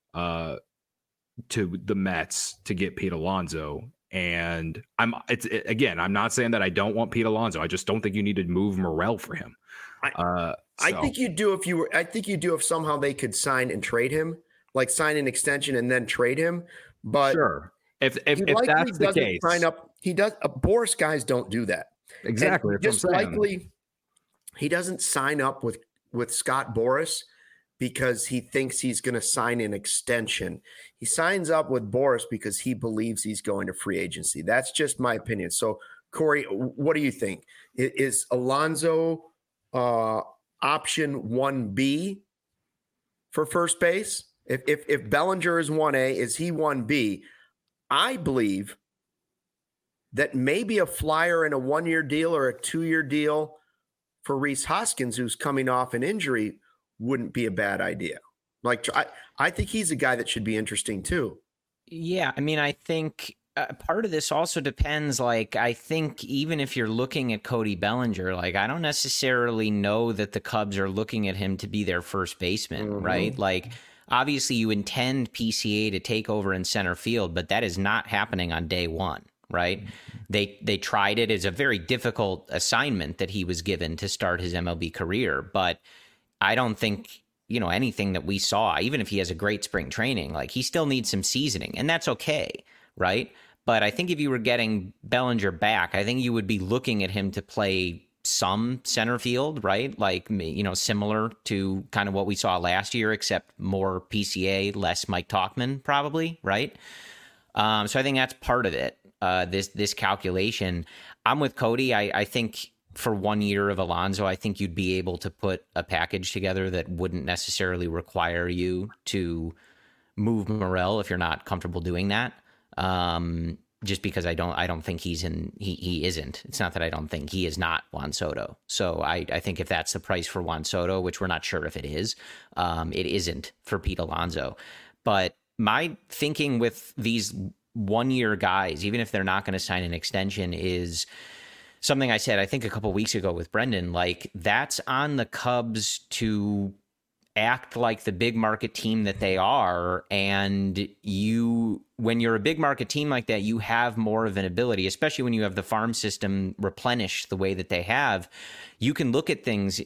to the Mets to get Pete Alonso. And I'm not saying that I don't want Pete Alonso. I just don't think you need to move Morel for him. I think you do if somehow they could sign and trade him, like sign an extension and then trade him. But sure, if that's the case, sign up. He does. Boras guys don't do that. Exactly. Just likely, he doesn't sign up with Scott Boras because he thinks he's going to sign an extension. He signs up with Boras because he believes he's going to free agency. That's just my opinion. So, Corey, what do you think? Is Alonso option 1B for first base? If Bellinger is 1A, is he 1B? I believe that maybe a flyer in a 1-year deal or a 2-year deal for Rhys Hoskins, who's coming off an injury, wouldn't be a bad idea. Like, I think he's a guy that should be interesting too. Yeah, I mean, I think part of this also depends. Like, I think even if you're looking at Cody Bellinger, like, I don't necessarily know that the Cubs are looking at him to be their first baseman, right? Like, obviously you intend PCA to take over in center field, but that is not happening on day one, right? They tried it as a very difficult assignment that he was given to start his MLB career, but I don't think, anything that we saw, even if he has a great spring training, like, he still needs some seasoning, and that's okay, right? But I think if you were getting Bellinger back, I think you would be looking at him to play some center field, right? Like, similar to kind of what we saw last year, except more PCA, less Mike Tauchman, probably, right? So I think that's part of it. This calculation. I'm with Cody. I think for 1 year of Alonso, I think you'd be able to put a package together that wouldn't necessarily require you to move Morel if you're not comfortable doing that. Just because I don't think he isn't. It's not that I don't think he is not Juan Soto. So I think if that's the price for Juan Soto, which we're not sure if it is, it isn't for Pete Alonso. But my thinking with these 1 year guys, even if they're not going to sign an extension, is something I said, I think a couple weeks ago with Brendan, like, that's on the Cubs to act like the big market team that they are. And when you're a big market team like that, you have more of an ability, especially when you have the farm system replenished the way that they have. You can look at things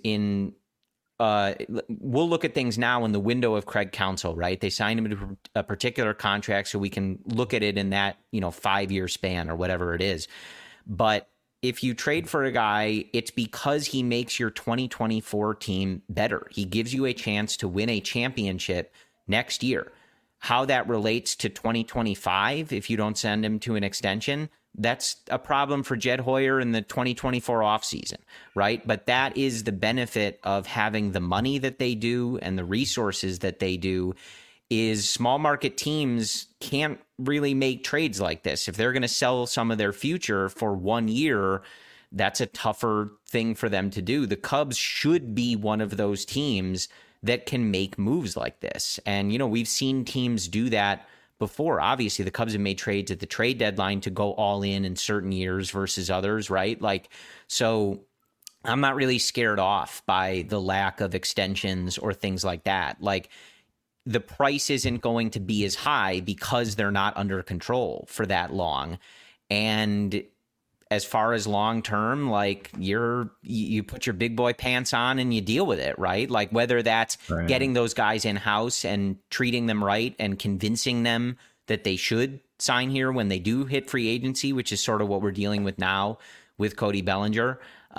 we'll look at things now in the window of Craig Counsell, right? They signed him to a particular contract, so we can look at it in that, 5-year span or whatever it is. But if you trade for a guy, it's because he makes your 2024 team better. He gives you a chance to win a championship next year. How that relates to 2025, if you don't send him to an extension, that's a problem for Jed Hoyer in the 2024 offseason, right? But that is the benefit of having the money that they do and the resources that they do, is small market teams can't really make trades like this. If they're going to sell some of their future for 1 year, that's a tougher thing for them to do. The Cubs should be one of those teams that can make moves like this. And, we've seen teams do that before. Obviously, the Cubs have made trades at the trade deadline to go all in certain years versus others, right? So I'm not really scared off by the lack of extensions or things like that. The price isn't going to be as high because they're not under control for that long. And as far as long term, you put your big boy pants on and you deal with it, right? Whether that's getting those guys in house and treating them right and convincing them that they should sign here when they do hit free agency, which is sort of what we're dealing with now with Cody Bellinger.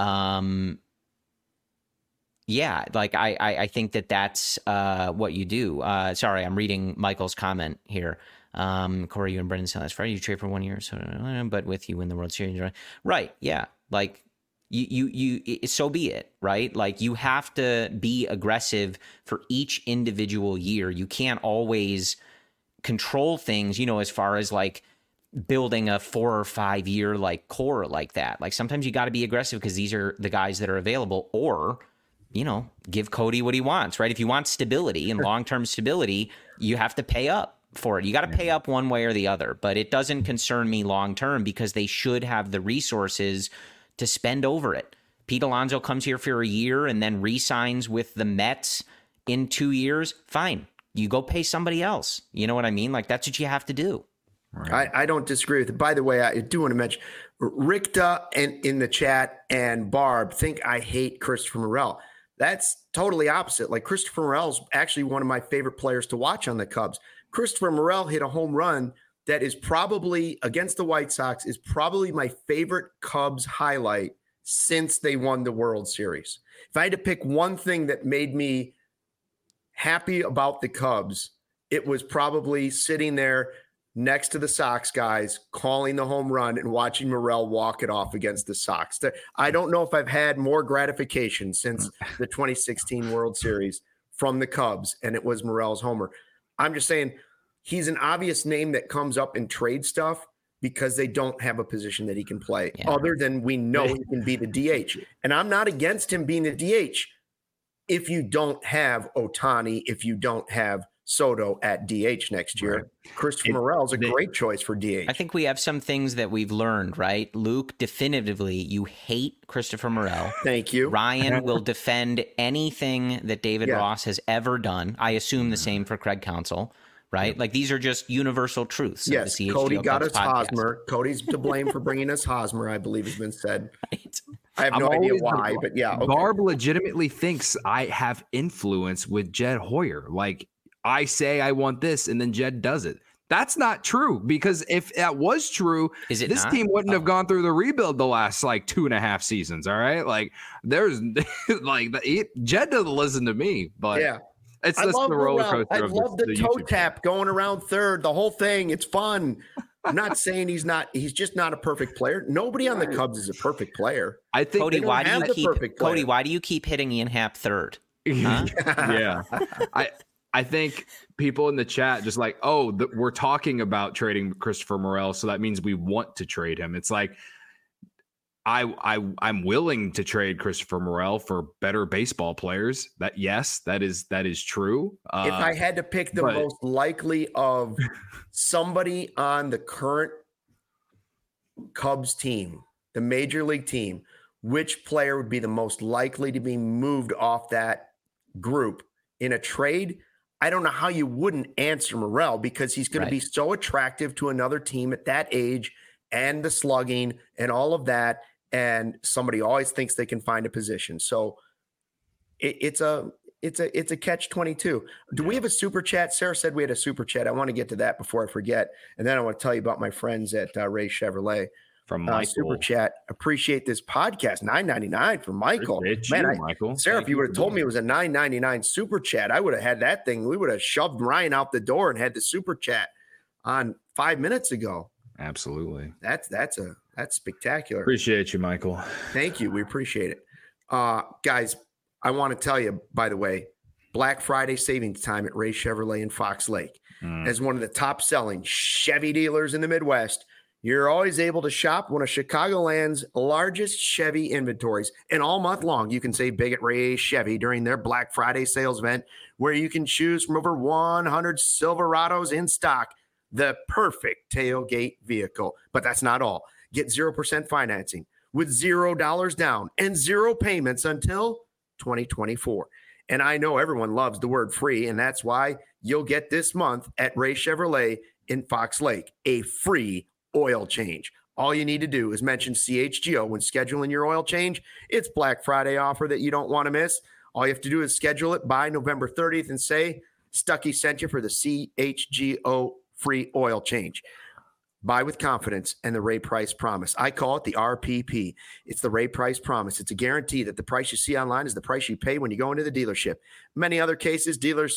I think that's what you do. Sorry, I'm reading Michael's comment here. Corey, you and Brendan said last Friday you trade for 1 year, but with you win the World Series, right? Yeah, you so be it, right? You have to be aggressive for each individual year. You can't always control things, as far as building a 4 or 5 year core like that. Sometimes you got to be aggressive because these are the guys that are available, or give Cody what he wants, right? If you want stability and long-term stability, you have to pay up for it. You got to pay up one way or the other, but it doesn't concern me long-term because they should have the resources to spend over it. Pete Alonso comes here for a year and then re-signs with the Mets in 2 years. Fine. You go pay somebody else. You know what I mean? That's what you have to do. Right. I don't disagree with it. By the way, I do want to mention Rickta and in the chat and Barb think I hate Christopher Morel. That's totally opposite. Christopher Morel's actually one of my favorite players to watch on the Cubs. Christopher Morel hit a home run that is probably against the White Sox is probably my favorite Cubs highlight since they won the World Series. If I had to pick one thing that made me happy about the Cubs, it was probably sitting there next to the Sox guys, calling the home run and watching Morel walk it off against the Sox. I don't know if I've had more gratification since the 2016 World Series from the Cubs, and it was Morel's homer. I'm just saying he's an obvious name that comes up in trade stuff because they don't have a position that he can play other than we know he can be the DH. And I'm not against him being the DH if you don't have Ohtani, if you don't have Soto at DH next year. Right. Christopher Morel is a great choice for DH. I think we have some things that we've learned, right? Luke, definitively, you hate Christopher Morel. Thank you. Ryan will defend anything that David Ross has ever done. I assume the same for Craig Counsell, right? These are just universal truths. Yes, Cody got us Hosmer. Cody's to blame for bringing us Hosmer, I believe has been said. Right. I have no idea why, but yeah. Okay. Barb legitimately thinks I have influence with Jed Hoyer. I say I want this, and then Jed does it. That's not true, because if that was true, this team wouldn't have gone through the rebuild the last 2.5 seasons. All right, there's Jed doesn't listen to me, but it's just the roller coaster. I love the toe tap going around third, the whole thing. It's fun. I'm not saying he's not. He's just not a perfect player. Nobody on the Cubs is a perfect player. I think Cody, why do you keep hitting Ian Happ third? Huh? Yeah, I think people in the chat just we're talking about trading Christopher Morel, so that means we want to trade him. It's I'm willing to trade Christopher Morel for better baseball players. That is true. If I had to pick the most likely of somebody on the current Cubs team, the major league team, which player would be the most likely to be moved off that group? in a trade, I don't know how you wouldn't answer Morel, because he's going to be so attractive to another team at that age and the slugging and all of that. And somebody always thinks they can find a position. So it's a catch-22. Do we have a super chat? Sarah said we had a super chat. I want to get to that before I forget. And then I want to tell you about my friends at Ray Chevrolet. From Michael. Super chat. Appreciate this podcast. $9.99 for Michael. Michael. Sarah, if you would have told me it was a $9.99 super chat, I would have had that thing. We would have shoved Ryan out the door and had the super chat on 5 minutes ago. Absolutely. That's spectacular. Appreciate you, Michael. Thank you. We appreciate it. Guys, I want to tell you, by the way, Black Friday savings time at Ray Chevrolet in Fox Lake. As one of the top selling Chevy dealers in the Midwest, you're always able to shop one of Chicagoland's largest Chevy inventories. And all month long, you can save big at Ray Chevy during their Black Friday sales event, where you can choose from over 100 Silverados in stock, the perfect tailgate vehicle. But that's not all. Get 0% financing with $0 down and 0 payments until 2024. And I know everyone loves the word free, and that's why you'll get this month at Ray Chevrolet in Fox Lake a free oil change. All you need to do is mention CHGO when scheduling your oil change. It's Black Friday offer that you don't want to miss. All you have to do is schedule it by November 30th and say Stuckey sent you for the CHGO free oil change. Buy with confidence and the Ray Price Promise. I call it the RPP. It's the Ray Price Promise. It's a guarantee that the price you see online is the price you pay when you go into the dealership. Many other cases, dealers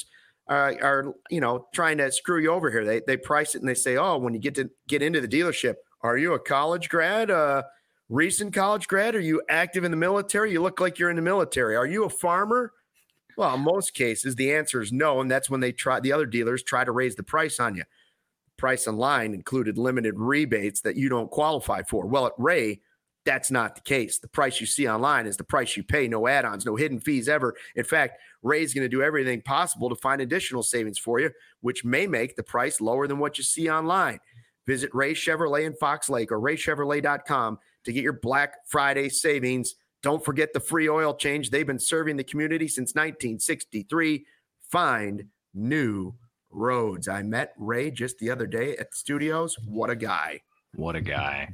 are trying to screw you over here. They price it and they say, oh, when you get into the dealership, are you a college grad, recent college grad? Are you active in the military? You look like you're in the military. Are you a farmer? Well, in most cases, the answer is no, and that's when the other dealers try to raise the price on you. Price online included limited rebates that you don't qualify for. Well, at Ray, that's not the case. The price you see online is the price you pay. No add-ons, no hidden fees ever. In fact, Ray's going to do everything possible to find additional savings for you, which may make the price lower than what you see online. Visit Ray Chevrolet in Fox Lake or raychevrolet.com to get your Black Friday savings. Don't forget the free oil change. They've been serving the community since 1963. Find new roads. I met Ray just the other day at the studios. What a guy. What a guy.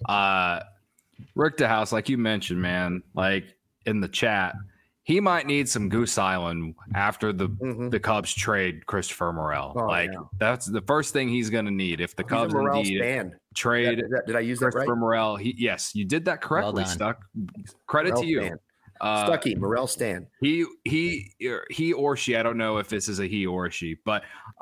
Rick DeHouse, like you mentioned, man, like in the chat, he might need some Goose Island after the Cubs trade Christopher Morel. That's the first thing he's going to need. If the Cubs indeed trade did I use that Christopher right? Morel, yes, you did that correctly, Stuck. Credit Morel to you. Stan. Stuckey, Morel Stan. He or she, I don't know if this is a he or a she, but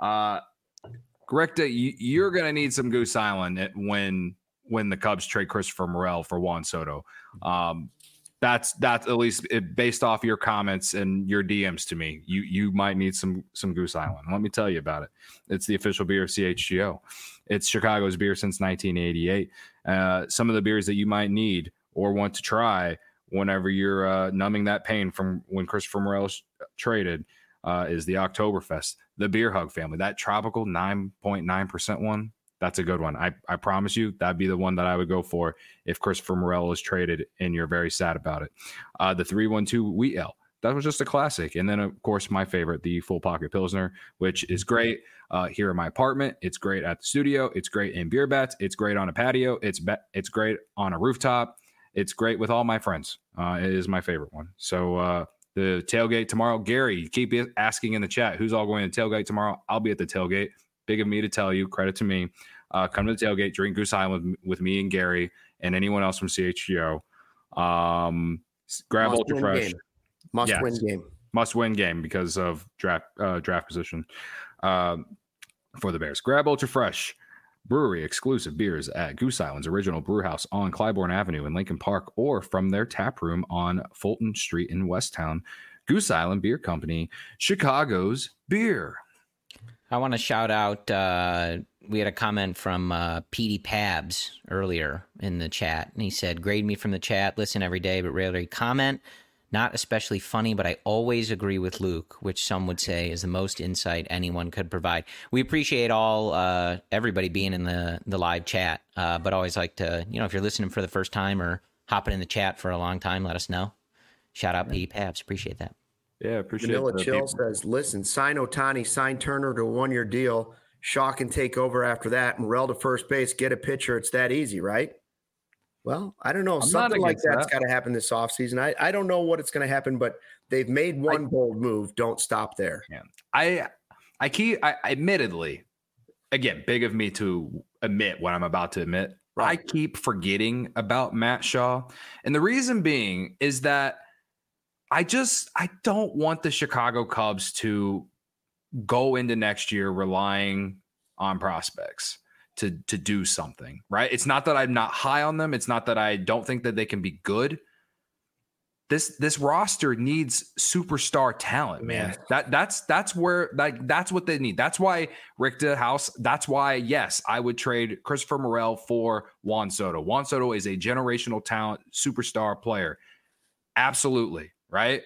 Greta, you're going to need some Goose Island when the Cubs trade Christopher Morel for Juan Soto. That's at least based off your comments and your DMs to me. You might need some Goose Island. Let me tell you about it. It's the official beer of CHGO. It's Chicago's beer since 1988. Some of the beers that you might need or want to try whenever you're numbing that pain from when Christopher Morel traded is the Oktoberfest, the Beer Hug family, that tropical 9.9% one. That's a good one. I promise you that'd be the one that I would go for if Christopher Morel is traded and you're very sad about it. The 312 Wheat Ale, that was just a classic. And then, of course, my favorite, the Full Pocket Pilsner, which is great here in my apartment. It's great at the studio. It's great in beer bats. It's great on a patio. It's great on a rooftop. It's great with all my friends. It is my favorite one. So the tailgate tomorrow, Gary, keep asking in the chat, who's all going to tailgate tomorrow? I'll be at the tailgate. Big of me to tell you, credit to me. Come to the tailgate, drink Goose Island with me and Gary and anyone else from CHGO. Grab Ultra Fresh. Must win game because of draft position for the Bears. Grab Ultra Fresh brewery exclusive beers at Goose Island's original brew house on Clybourne Avenue in Lincoln Park, or from their tap room on Fulton Street in Westtown. Goose Island Beer Company, Chicago's beer. I want to shout out, we had a comment from Petey Pabs earlier in the chat, and he said, grade me from the chat, listen every day, but rarely comment. Not especially funny, but I always agree with Luke, which some would say is the most insight anyone could provide. We appreciate everybody being in the live chat, but always like to, if you're listening for the first time or hopping in the chat for a long time, let us know. Shout out Petey Pabs. Appreciate that. Yeah, appreciate it. Vanilla Chill says, listen, sign Ohtani, sign Turner to a 1-year deal. Shaw can take over after that. Morel to first base, get a pitcher. It's that easy, right? Well, I don't know. Something like that's got to happen this offseason. I don't know what it's going to happen, but they've made one bold move. Don't stop there. Yeah. I admittedly, again, big of me to admit what I'm about to admit. Right. I keep forgetting about Matt Shaw. And the reason being is that I don't want the Chicago Cubs to go into next year relying on prospects to do something, right? It's not that I'm not high on them. It's not that I don't think that they can be good. This roster needs superstar talent, man. That's where, like, that's what they need. That's why Richter House. That's why, yes, I would trade Christopher Morel for Juan Soto. Juan Soto is a generational talent, superstar player. Absolutely, right?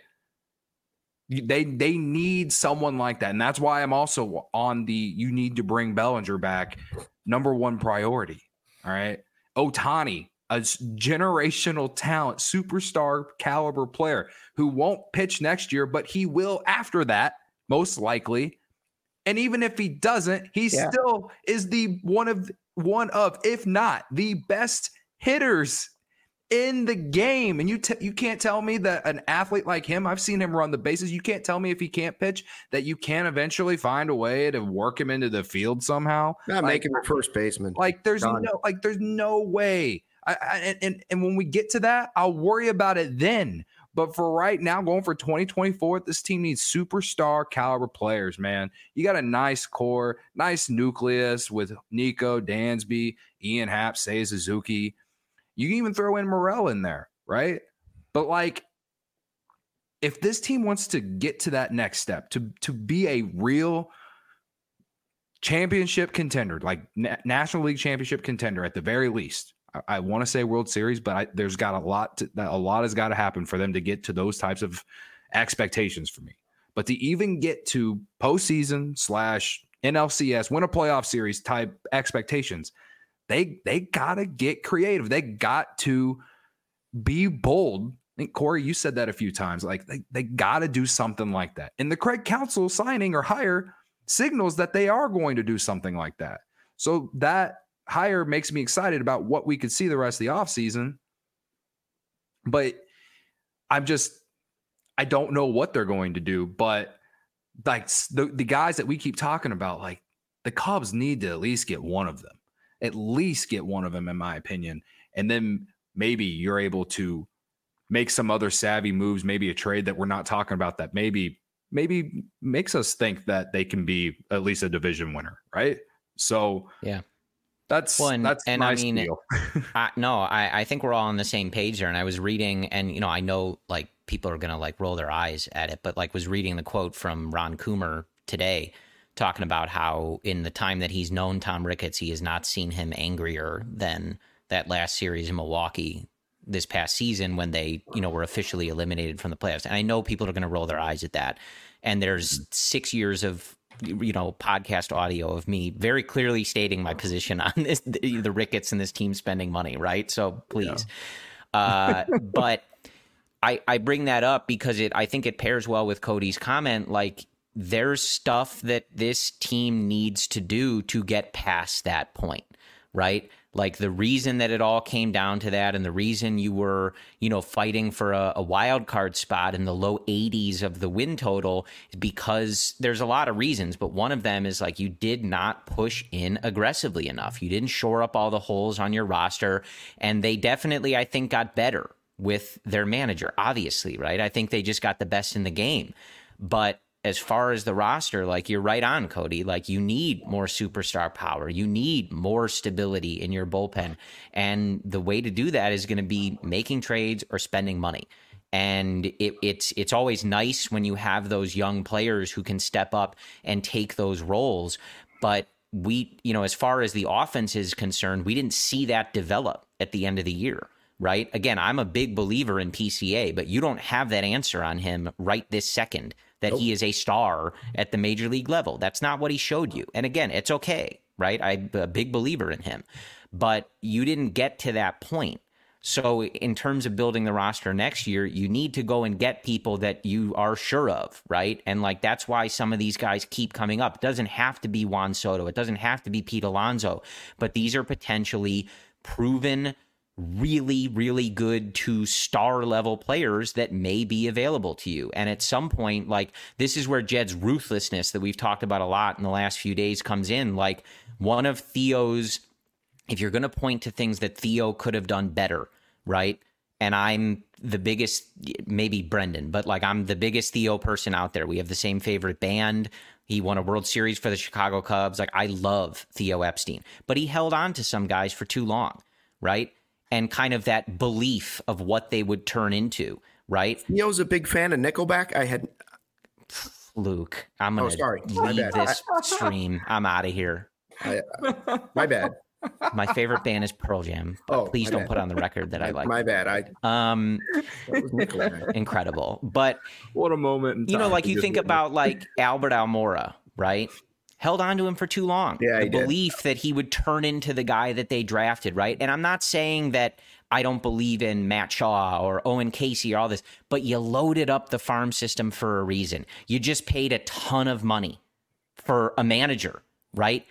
They need someone like that, and that's why I'm also on the you need to bring Bellinger back. Number one priority. All right, Ohtani, a generational talent, superstar caliber player who won't pitch next year, but he will after that, most likely. And even if he doesn't, he still is the one of, if not the best hitters in the game. And you can't tell me that an athlete like him, I've seen him run the bases. You can't tell me if he can't pitch that you can't eventually find a way to work him into the field somehow. Not make him a first baseman. There's no way. And when we get to that, I'll worry about it then. But for right now, going for 2024, this team needs superstar caliber players, man. You got a nice core, nice nucleus with Nico, Dansby, Ian Happ, Seiya Suzuki. You can even throw in Morel in there, right? But like, if this team wants to get to that next step, to be a real championship contender, like National League championship contender at the very least, I want to say World Series, but there's got a lot has got to happen for them to get to those types of expectations for me. But to even get to postseason / NLCS, win a playoff series type expectations, they got to get creative. They got to be bold. I think, Corey, you said that a few times. Like, they got to do something like that. And the Craig Counsell signing or hire signals that they are going to do something like that. So that hire makes me excited about what we could see the rest of the offseason. But I don't know what they're going to do. But like the guys that we keep talking about, like the Cubs need to at least get one of them. At least get one of them, in my opinion. And then maybe you're able to make some other savvy moves, maybe a trade that we're not talking about that maybe makes us think that they can be at least a division winner, right? So yeah, that's my deal. I think we're all on the same page there. And I was reading, and I know like people are gonna like roll their eyes at it, but like was reading the quote from Ron Coomer today, talking about how in the time that he's known Tom Ricketts, he has not seen him angrier than that last series in Milwaukee this past season when they, were officially eliminated from the playoffs. And I know people are going to roll their eyes at that. And there's 6 years of, podcast audio of me very clearly stating my position on this, the Ricketts and this team spending money, right? So please. Yeah. But I bring that up because I think it pairs well with Cody's comment. Like, there's stuff that this team needs to do to get past that point, right? Like the reason that it all came down to that and the reason you were, fighting for a wild card spot in the low 80s of the win total is because there's a lot of reasons, but one of them is like you did not push in aggressively enough. You didn't shore up all the holes on your roster, and they definitely, I think, got better with their manager, obviously, right? I think they just got the best in the game. But as far as the roster, like you're right on, Cody, like you need more superstar power. You need more stability in your bullpen. And the way to do that is going to be making trades or spending money. And it's always nice when you have those young players who can step up and take those roles. But we, as far as the offense is concerned, we didn't see that develop at the end of the year. Right? Again, I'm a big believer in PCA, but you don't have that answer on him right this second that he is a star at the major league level. That's not what he showed you. And again, it's okay, right? I'm a big believer in him. But you didn't get to that point. So in terms of building the roster next year, you need to go and get people that you are sure of, right? And like that's why some of these guys keep coming up. It doesn't have to be Juan Soto. It doesn't have to be Pete Alonso. But these are potentially proven, really, really good to star level players that may be available to you. And at some point, like this is where Jed's ruthlessness that we've talked about a lot in the last few days comes in. Like one of Theo's, if you're going to point to things that Theo could have done better, right? And I'm the biggest, maybe Brendan, but like I'm the biggest Theo person out there. We have the same favorite band. He won a World Series for the Chicago Cubs. Like I love Theo Epstein, but he held on to some guys for too long, right? And kind of that belief of what they would turn into, right? Theo's a big fan of Nickelback. Luke, I'm going to leave this stream. I'm out of here. My bad. My favorite band is Pearl Jam. But please don't put on the record that I like. My bad. Incredible. But what a moment. You know, like you think about like Albert Almora, right? Held on to him for too long. Yeah, the belief that he would turn into the guy that they drafted, right? And I'm not saying that I don't believe in Matt Shaw or Owen Casey or all this, but you loaded up the farm system for a reason. You just paid a ton of money for a manager, right?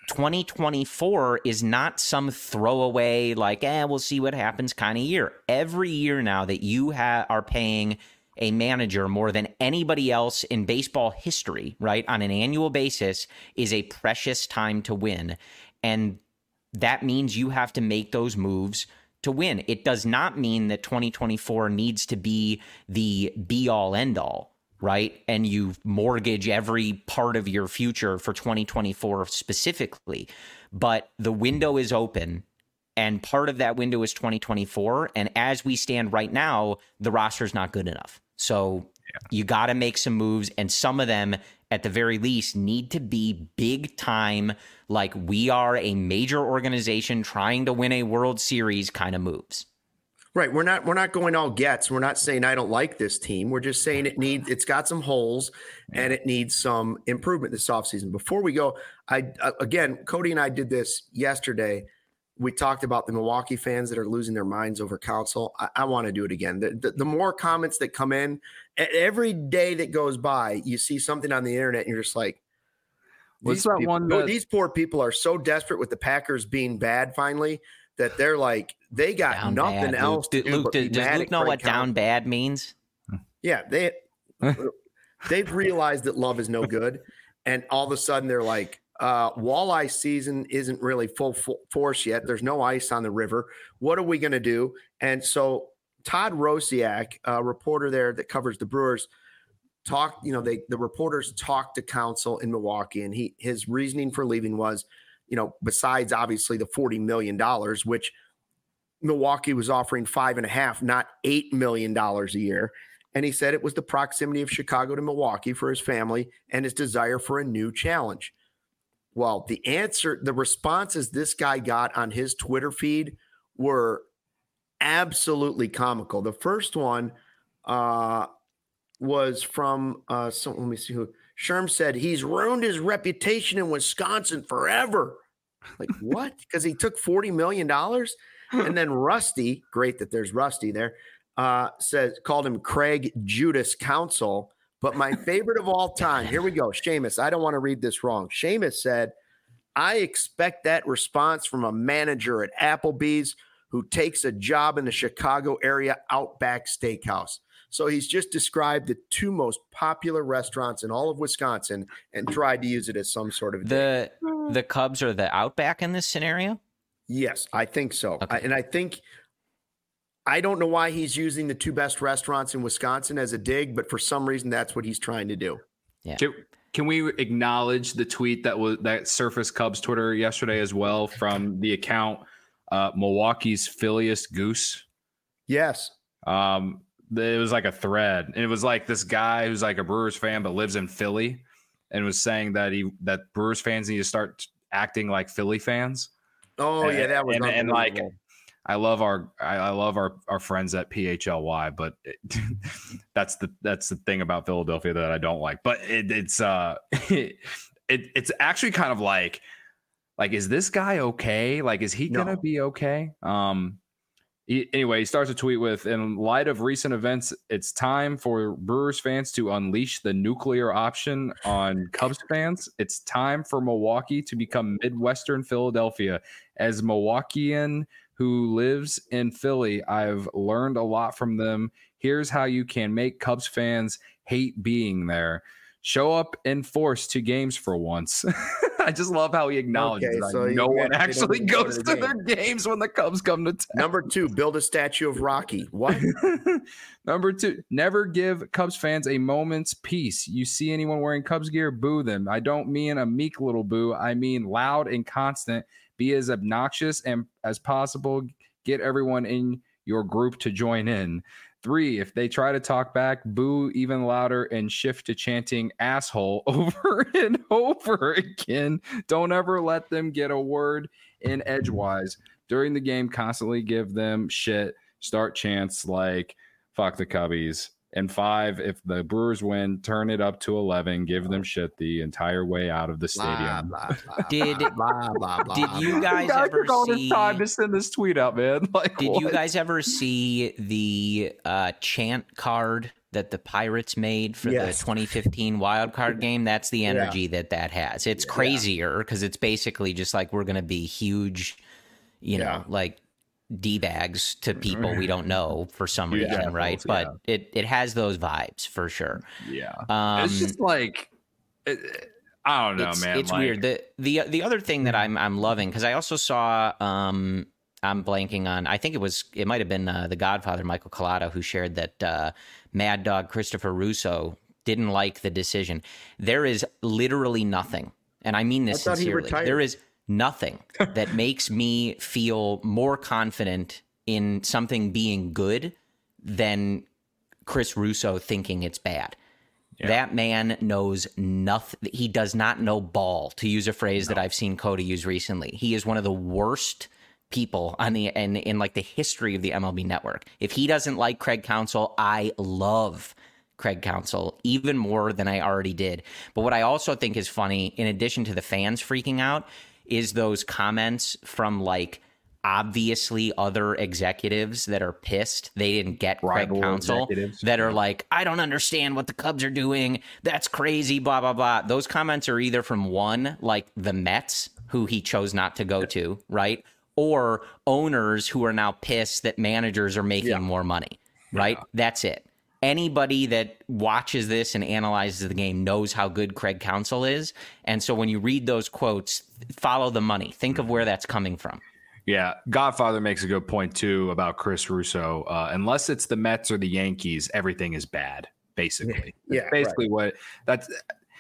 2024 is not some throwaway, like, we'll see what happens kind of year. Every year now that you are paying a manager more than anybody else in baseball history, right, on an annual basis is a precious time to win. And that means you have to make those moves to win. It does not mean that 2024 needs to be the be-all, end-all, right? And you mortgage every part of your future for 2024 specifically. But the window is open, and part of that window is 2024. And as we stand right now, the roster is not good enough. So you got to make some moves, and some of them, at the very least, need to be big time, like we are a major organization trying to win a World Series kind of moves. Right. We're not going all gets. We're not saying I don't like this team. We're just saying it's got some holes and it needs some improvement this offseason. Before we go, again, Cody and I did this yesterday. We talked about the Milwaukee fans that are losing their minds over Counsell. I want to do it again. The more comments that come in, every day that goes by, you see something on the internet and you're just like, these poor people are so desperate with the Packers being bad finally that they're like, they got down nothing bad. else to do. Luke, does Luke know what down bad means? Yeah, they've realized that love is no good. And all of a sudden they're like, walleye season isn't really full force yet. There's no ice on the river. What are we going to do? And so Todd Rosiak, a reporter there that covers the Brewers, the reporters talked to Counsell in Milwaukee, and his reasoning for leaving was, besides obviously the $40 million, which Milwaukee was offering $5.5, not $8 million a year. And he said it was the proximity of Chicago to Milwaukee for his family and his desire for a new challenge. Well, the responses this guy got on his Twitter feed were absolutely comical. The first one was from let me see who. Sherm said he's ruined his reputation in Wisconsin forever. Like what? Because he took $40 million. And then Rusty, great that there's Rusty there, called him Craig Judas Counsell. But my favorite of all time, here we go. Seamus, I don't want to read this wrong. Seamus said, I expect that response from a manager at Applebee's who takes a job in the Chicago area Outback Steakhouse. So he's just described the two most popular restaurants in all of Wisconsin and tried to use it as some sort of the Cubs are the Outback in this scenario? Yes, I think so. Okay. I don't know why he's using the two best restaurants in Wisconsin as a dig, but for some reason that's what he's trying to do. Yeah. Can we acknowledge the tweet that surfaced Cubs Twitter yesterday as well from the account Milwaukee's Philliest Goose? Yes. It was like a thread, and it was like this guy who's like a Brewers fan but lives in Philly, and was saying that Brewers fans need to start acting like Philly fans. Oh yeah, that was and like I love our friends at PHLY, but that's the thing about Philadelphia that I don't like. But it's actually kind of like is this guy okay? Like, is he gonna be okay? Anyway, he starts a tweet with, in light of recent events, it's time for Brewers fans to unleash the nuclear option on Cubs fans. It's time for Milwaukee to become Midwestern Philadelphia. As Milwaukeean who lives in Philly, I've learned a lot from them. Here's how you can make Cubs fans hate being there. Show up in force to games for once. I just love how he acknowledges that no one actually goes to their games when the Cubs come to town. Number 2, build a statue of Rocky. What? Number 2, never give Cubs fans a moment's peace. You see anyone wearing Cubs gear, boo them. I don't mean a meek little boo. I mean loud and constant. Be as obnoxious and as possible. Get everyone in your group to join in. 3, if they try to talk back, boo even louder and shift to chanting asshole over and over again. Don't ever let them get a word in edgewise. During the game, constantly give them shit. Start chants like fuck the Cubbies. And 5, if the Brewers win, turn it up to 11. Give them shit the entire way out of the stadium. Did you guys ever see? Time to send this tweet out, man. Did you guys ever see the chant card that the Pirates made for the 2015 wild card game? That's the energy that has. It's crazier because it's basically just like we're going to be huge, you know, like D-bags to people we don't know for some reason, right? But it has those vibes for sure. Yeah, it's just like I don't know, man. It's weird. The other thing that I'm loving, because I also saw I'm blanking on. I think it might have been the Godfather Michael Collado who shared that Mad Dog Christopher Russo didn't like the decision. There is literally nothing, and I mean this sincerely. There is nothing that makes me feel more confident in something being good than Chris Russo thinking it's bad. Yeah. That man knows nothing. He does not know ball, to use a phrase that I've seen Cody use recently. He is one of the worst people on in like the history of the MLB Network. If he doesn't like Craig Counsell, I love Craig Counsell even more than I already did. But what I also think is funny, in addition to the fans freaking out, is those comments from like obviously other executives that are pissed they didn't get Craig Counsell, that are like, I don't understand what the Cubs are doing. That's crazy, blah, blah, blah. Those comments are either from one, like the Mets, who he chose not to go to, right? Or owners who are now pissed that managers are making more money, right? Yeah. That's it. Anybody that watches this and analyzes the game knows how good Craig Counsell is. And so when you read those quotes, follow the money. Think of where that's coming from. Yeah. Godfather makes a good point, too, about Chris Russo. Unless it's the Mets or the Yankees, everything is bad, basically. Yeah. Basically what that's.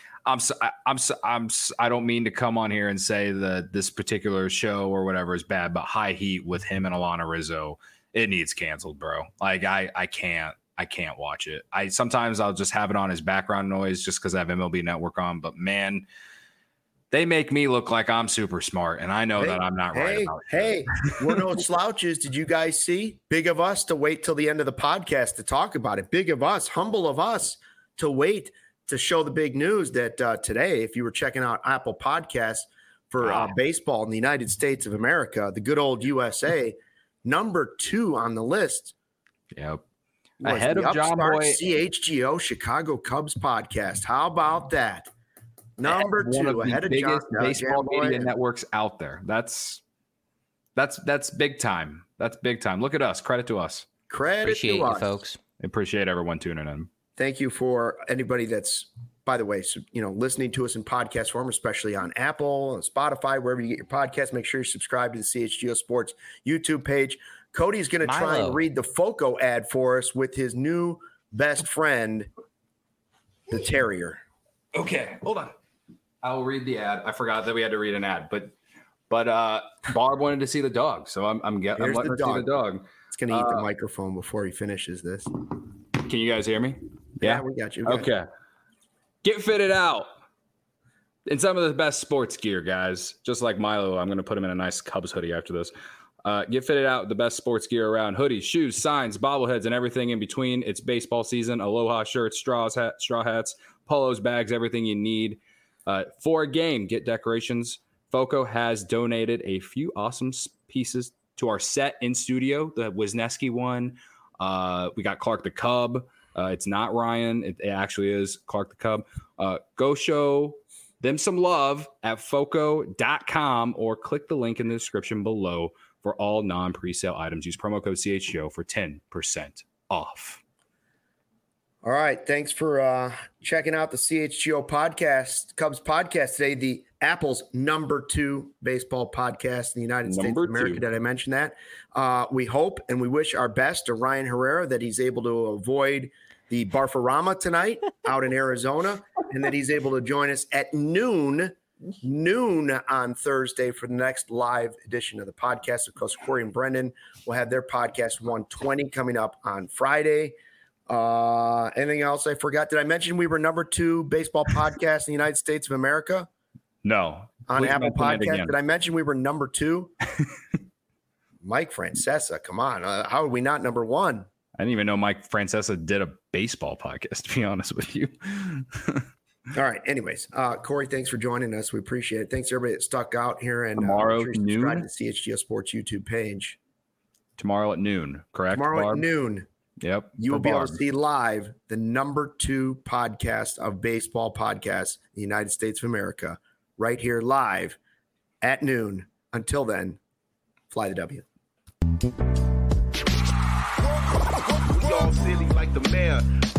I don't mean to come on here and say that this particular show or whatever is bad, but High Heat with him and Alana Rizzo, it needs canceled, bro. Like I can't watch it. Sometimes I'll just have it on as background noise just because I have MLB Network on. But man, they make me look like I'm super smart, and I know that I'm not right about it. Hey, we're no slouches. Did you guys see? Big of us to wait till the end of the podcast to talk about it. Big of us, humble of us to wait to show the big news that today, if you were checking out Apple Podcasts for baseball in the United States of America, the good old USA, number 2 on the list. Yep. Ahead of John Boy. CHGO Chicago Cubs podcast. How about that? Number 2 ahead of biggest baseball media networks out there. That's big time. That's big time. Look at us. Credit to us. Appreciate you, folks. Appreciate everyone tuning in. Thank you for anybody that's, by the way, listening to us in podcast form, especially on Apple and Spotify, wherever you get your podcasts. Make sure you subscribe to the CHGO Sports YouTube page. Cody's going to try and read the FOCO ad for us with his new best friend, the Terrier. Okay, hold on. I'll read the ad. I forgot that we had to read an ad, but Barb wanted to see the dog, so I'm letting her see the dog. It's going to eat the microphone before he finishes this. Can you guys hear me? Yeah, we got you. Okay. Get fitted out in some of the best sports gear, guys. Just like Milo, I'm going to put him in a nice Cubs hoodie after this. Get fitted out with the best sports gear around. Hoodies, shoes, signs, bobbleheads, and everything in between. It's baseball season. Aloha shirts, straw hats, polos, bags, everything you need. For a game, get decorations. FOCO has donated a few awesome pieces to our set in studio, the Wisniewski one. We got Clark the Cub. It's not Ryan. It actually is Clark the Cub. Go show them some love at foco.com or click the link in the description below for all non-presale items. Use promo code CHGO for 10% off. All right. Thanks for checking out the CHGO podcast, Cubs podcast today, the Apple's #2 baseball podcast in the United States of America. Did I mention that? We hope and we wish our best to Ryan Herrera that he's able to avoid the Barfarama tonight out in Arizona and that he's able to join us at noon on Thursday for the next live edition of the podcast. Of course, Corey and Brendan will have their podcast 120 coming up on Friday. Anything else I forgot? Did I mention we were #2 baseball podcast in the United States of America? No. On Apple Podcast. Did I mention we were #2? Mike Francesa, come on. How are we not #1? I didn't even know Mike Francesa did a baseball podcast, to be honest with you. All right. Anyways, Corey, thanks for joining us. We appreciate it. Thanks to everybody that stuck out here. And tomorrow sure noon. Subscribe to the CHGO Sports YouTube page. Tomorrow at noon, correct? Tomorrow Barb? at noon. Yep. You will be able to see live the #2 podcast of baseball podcasts in the United States of America right here live at noon. Until then, fly the W. We all silly like the mayor.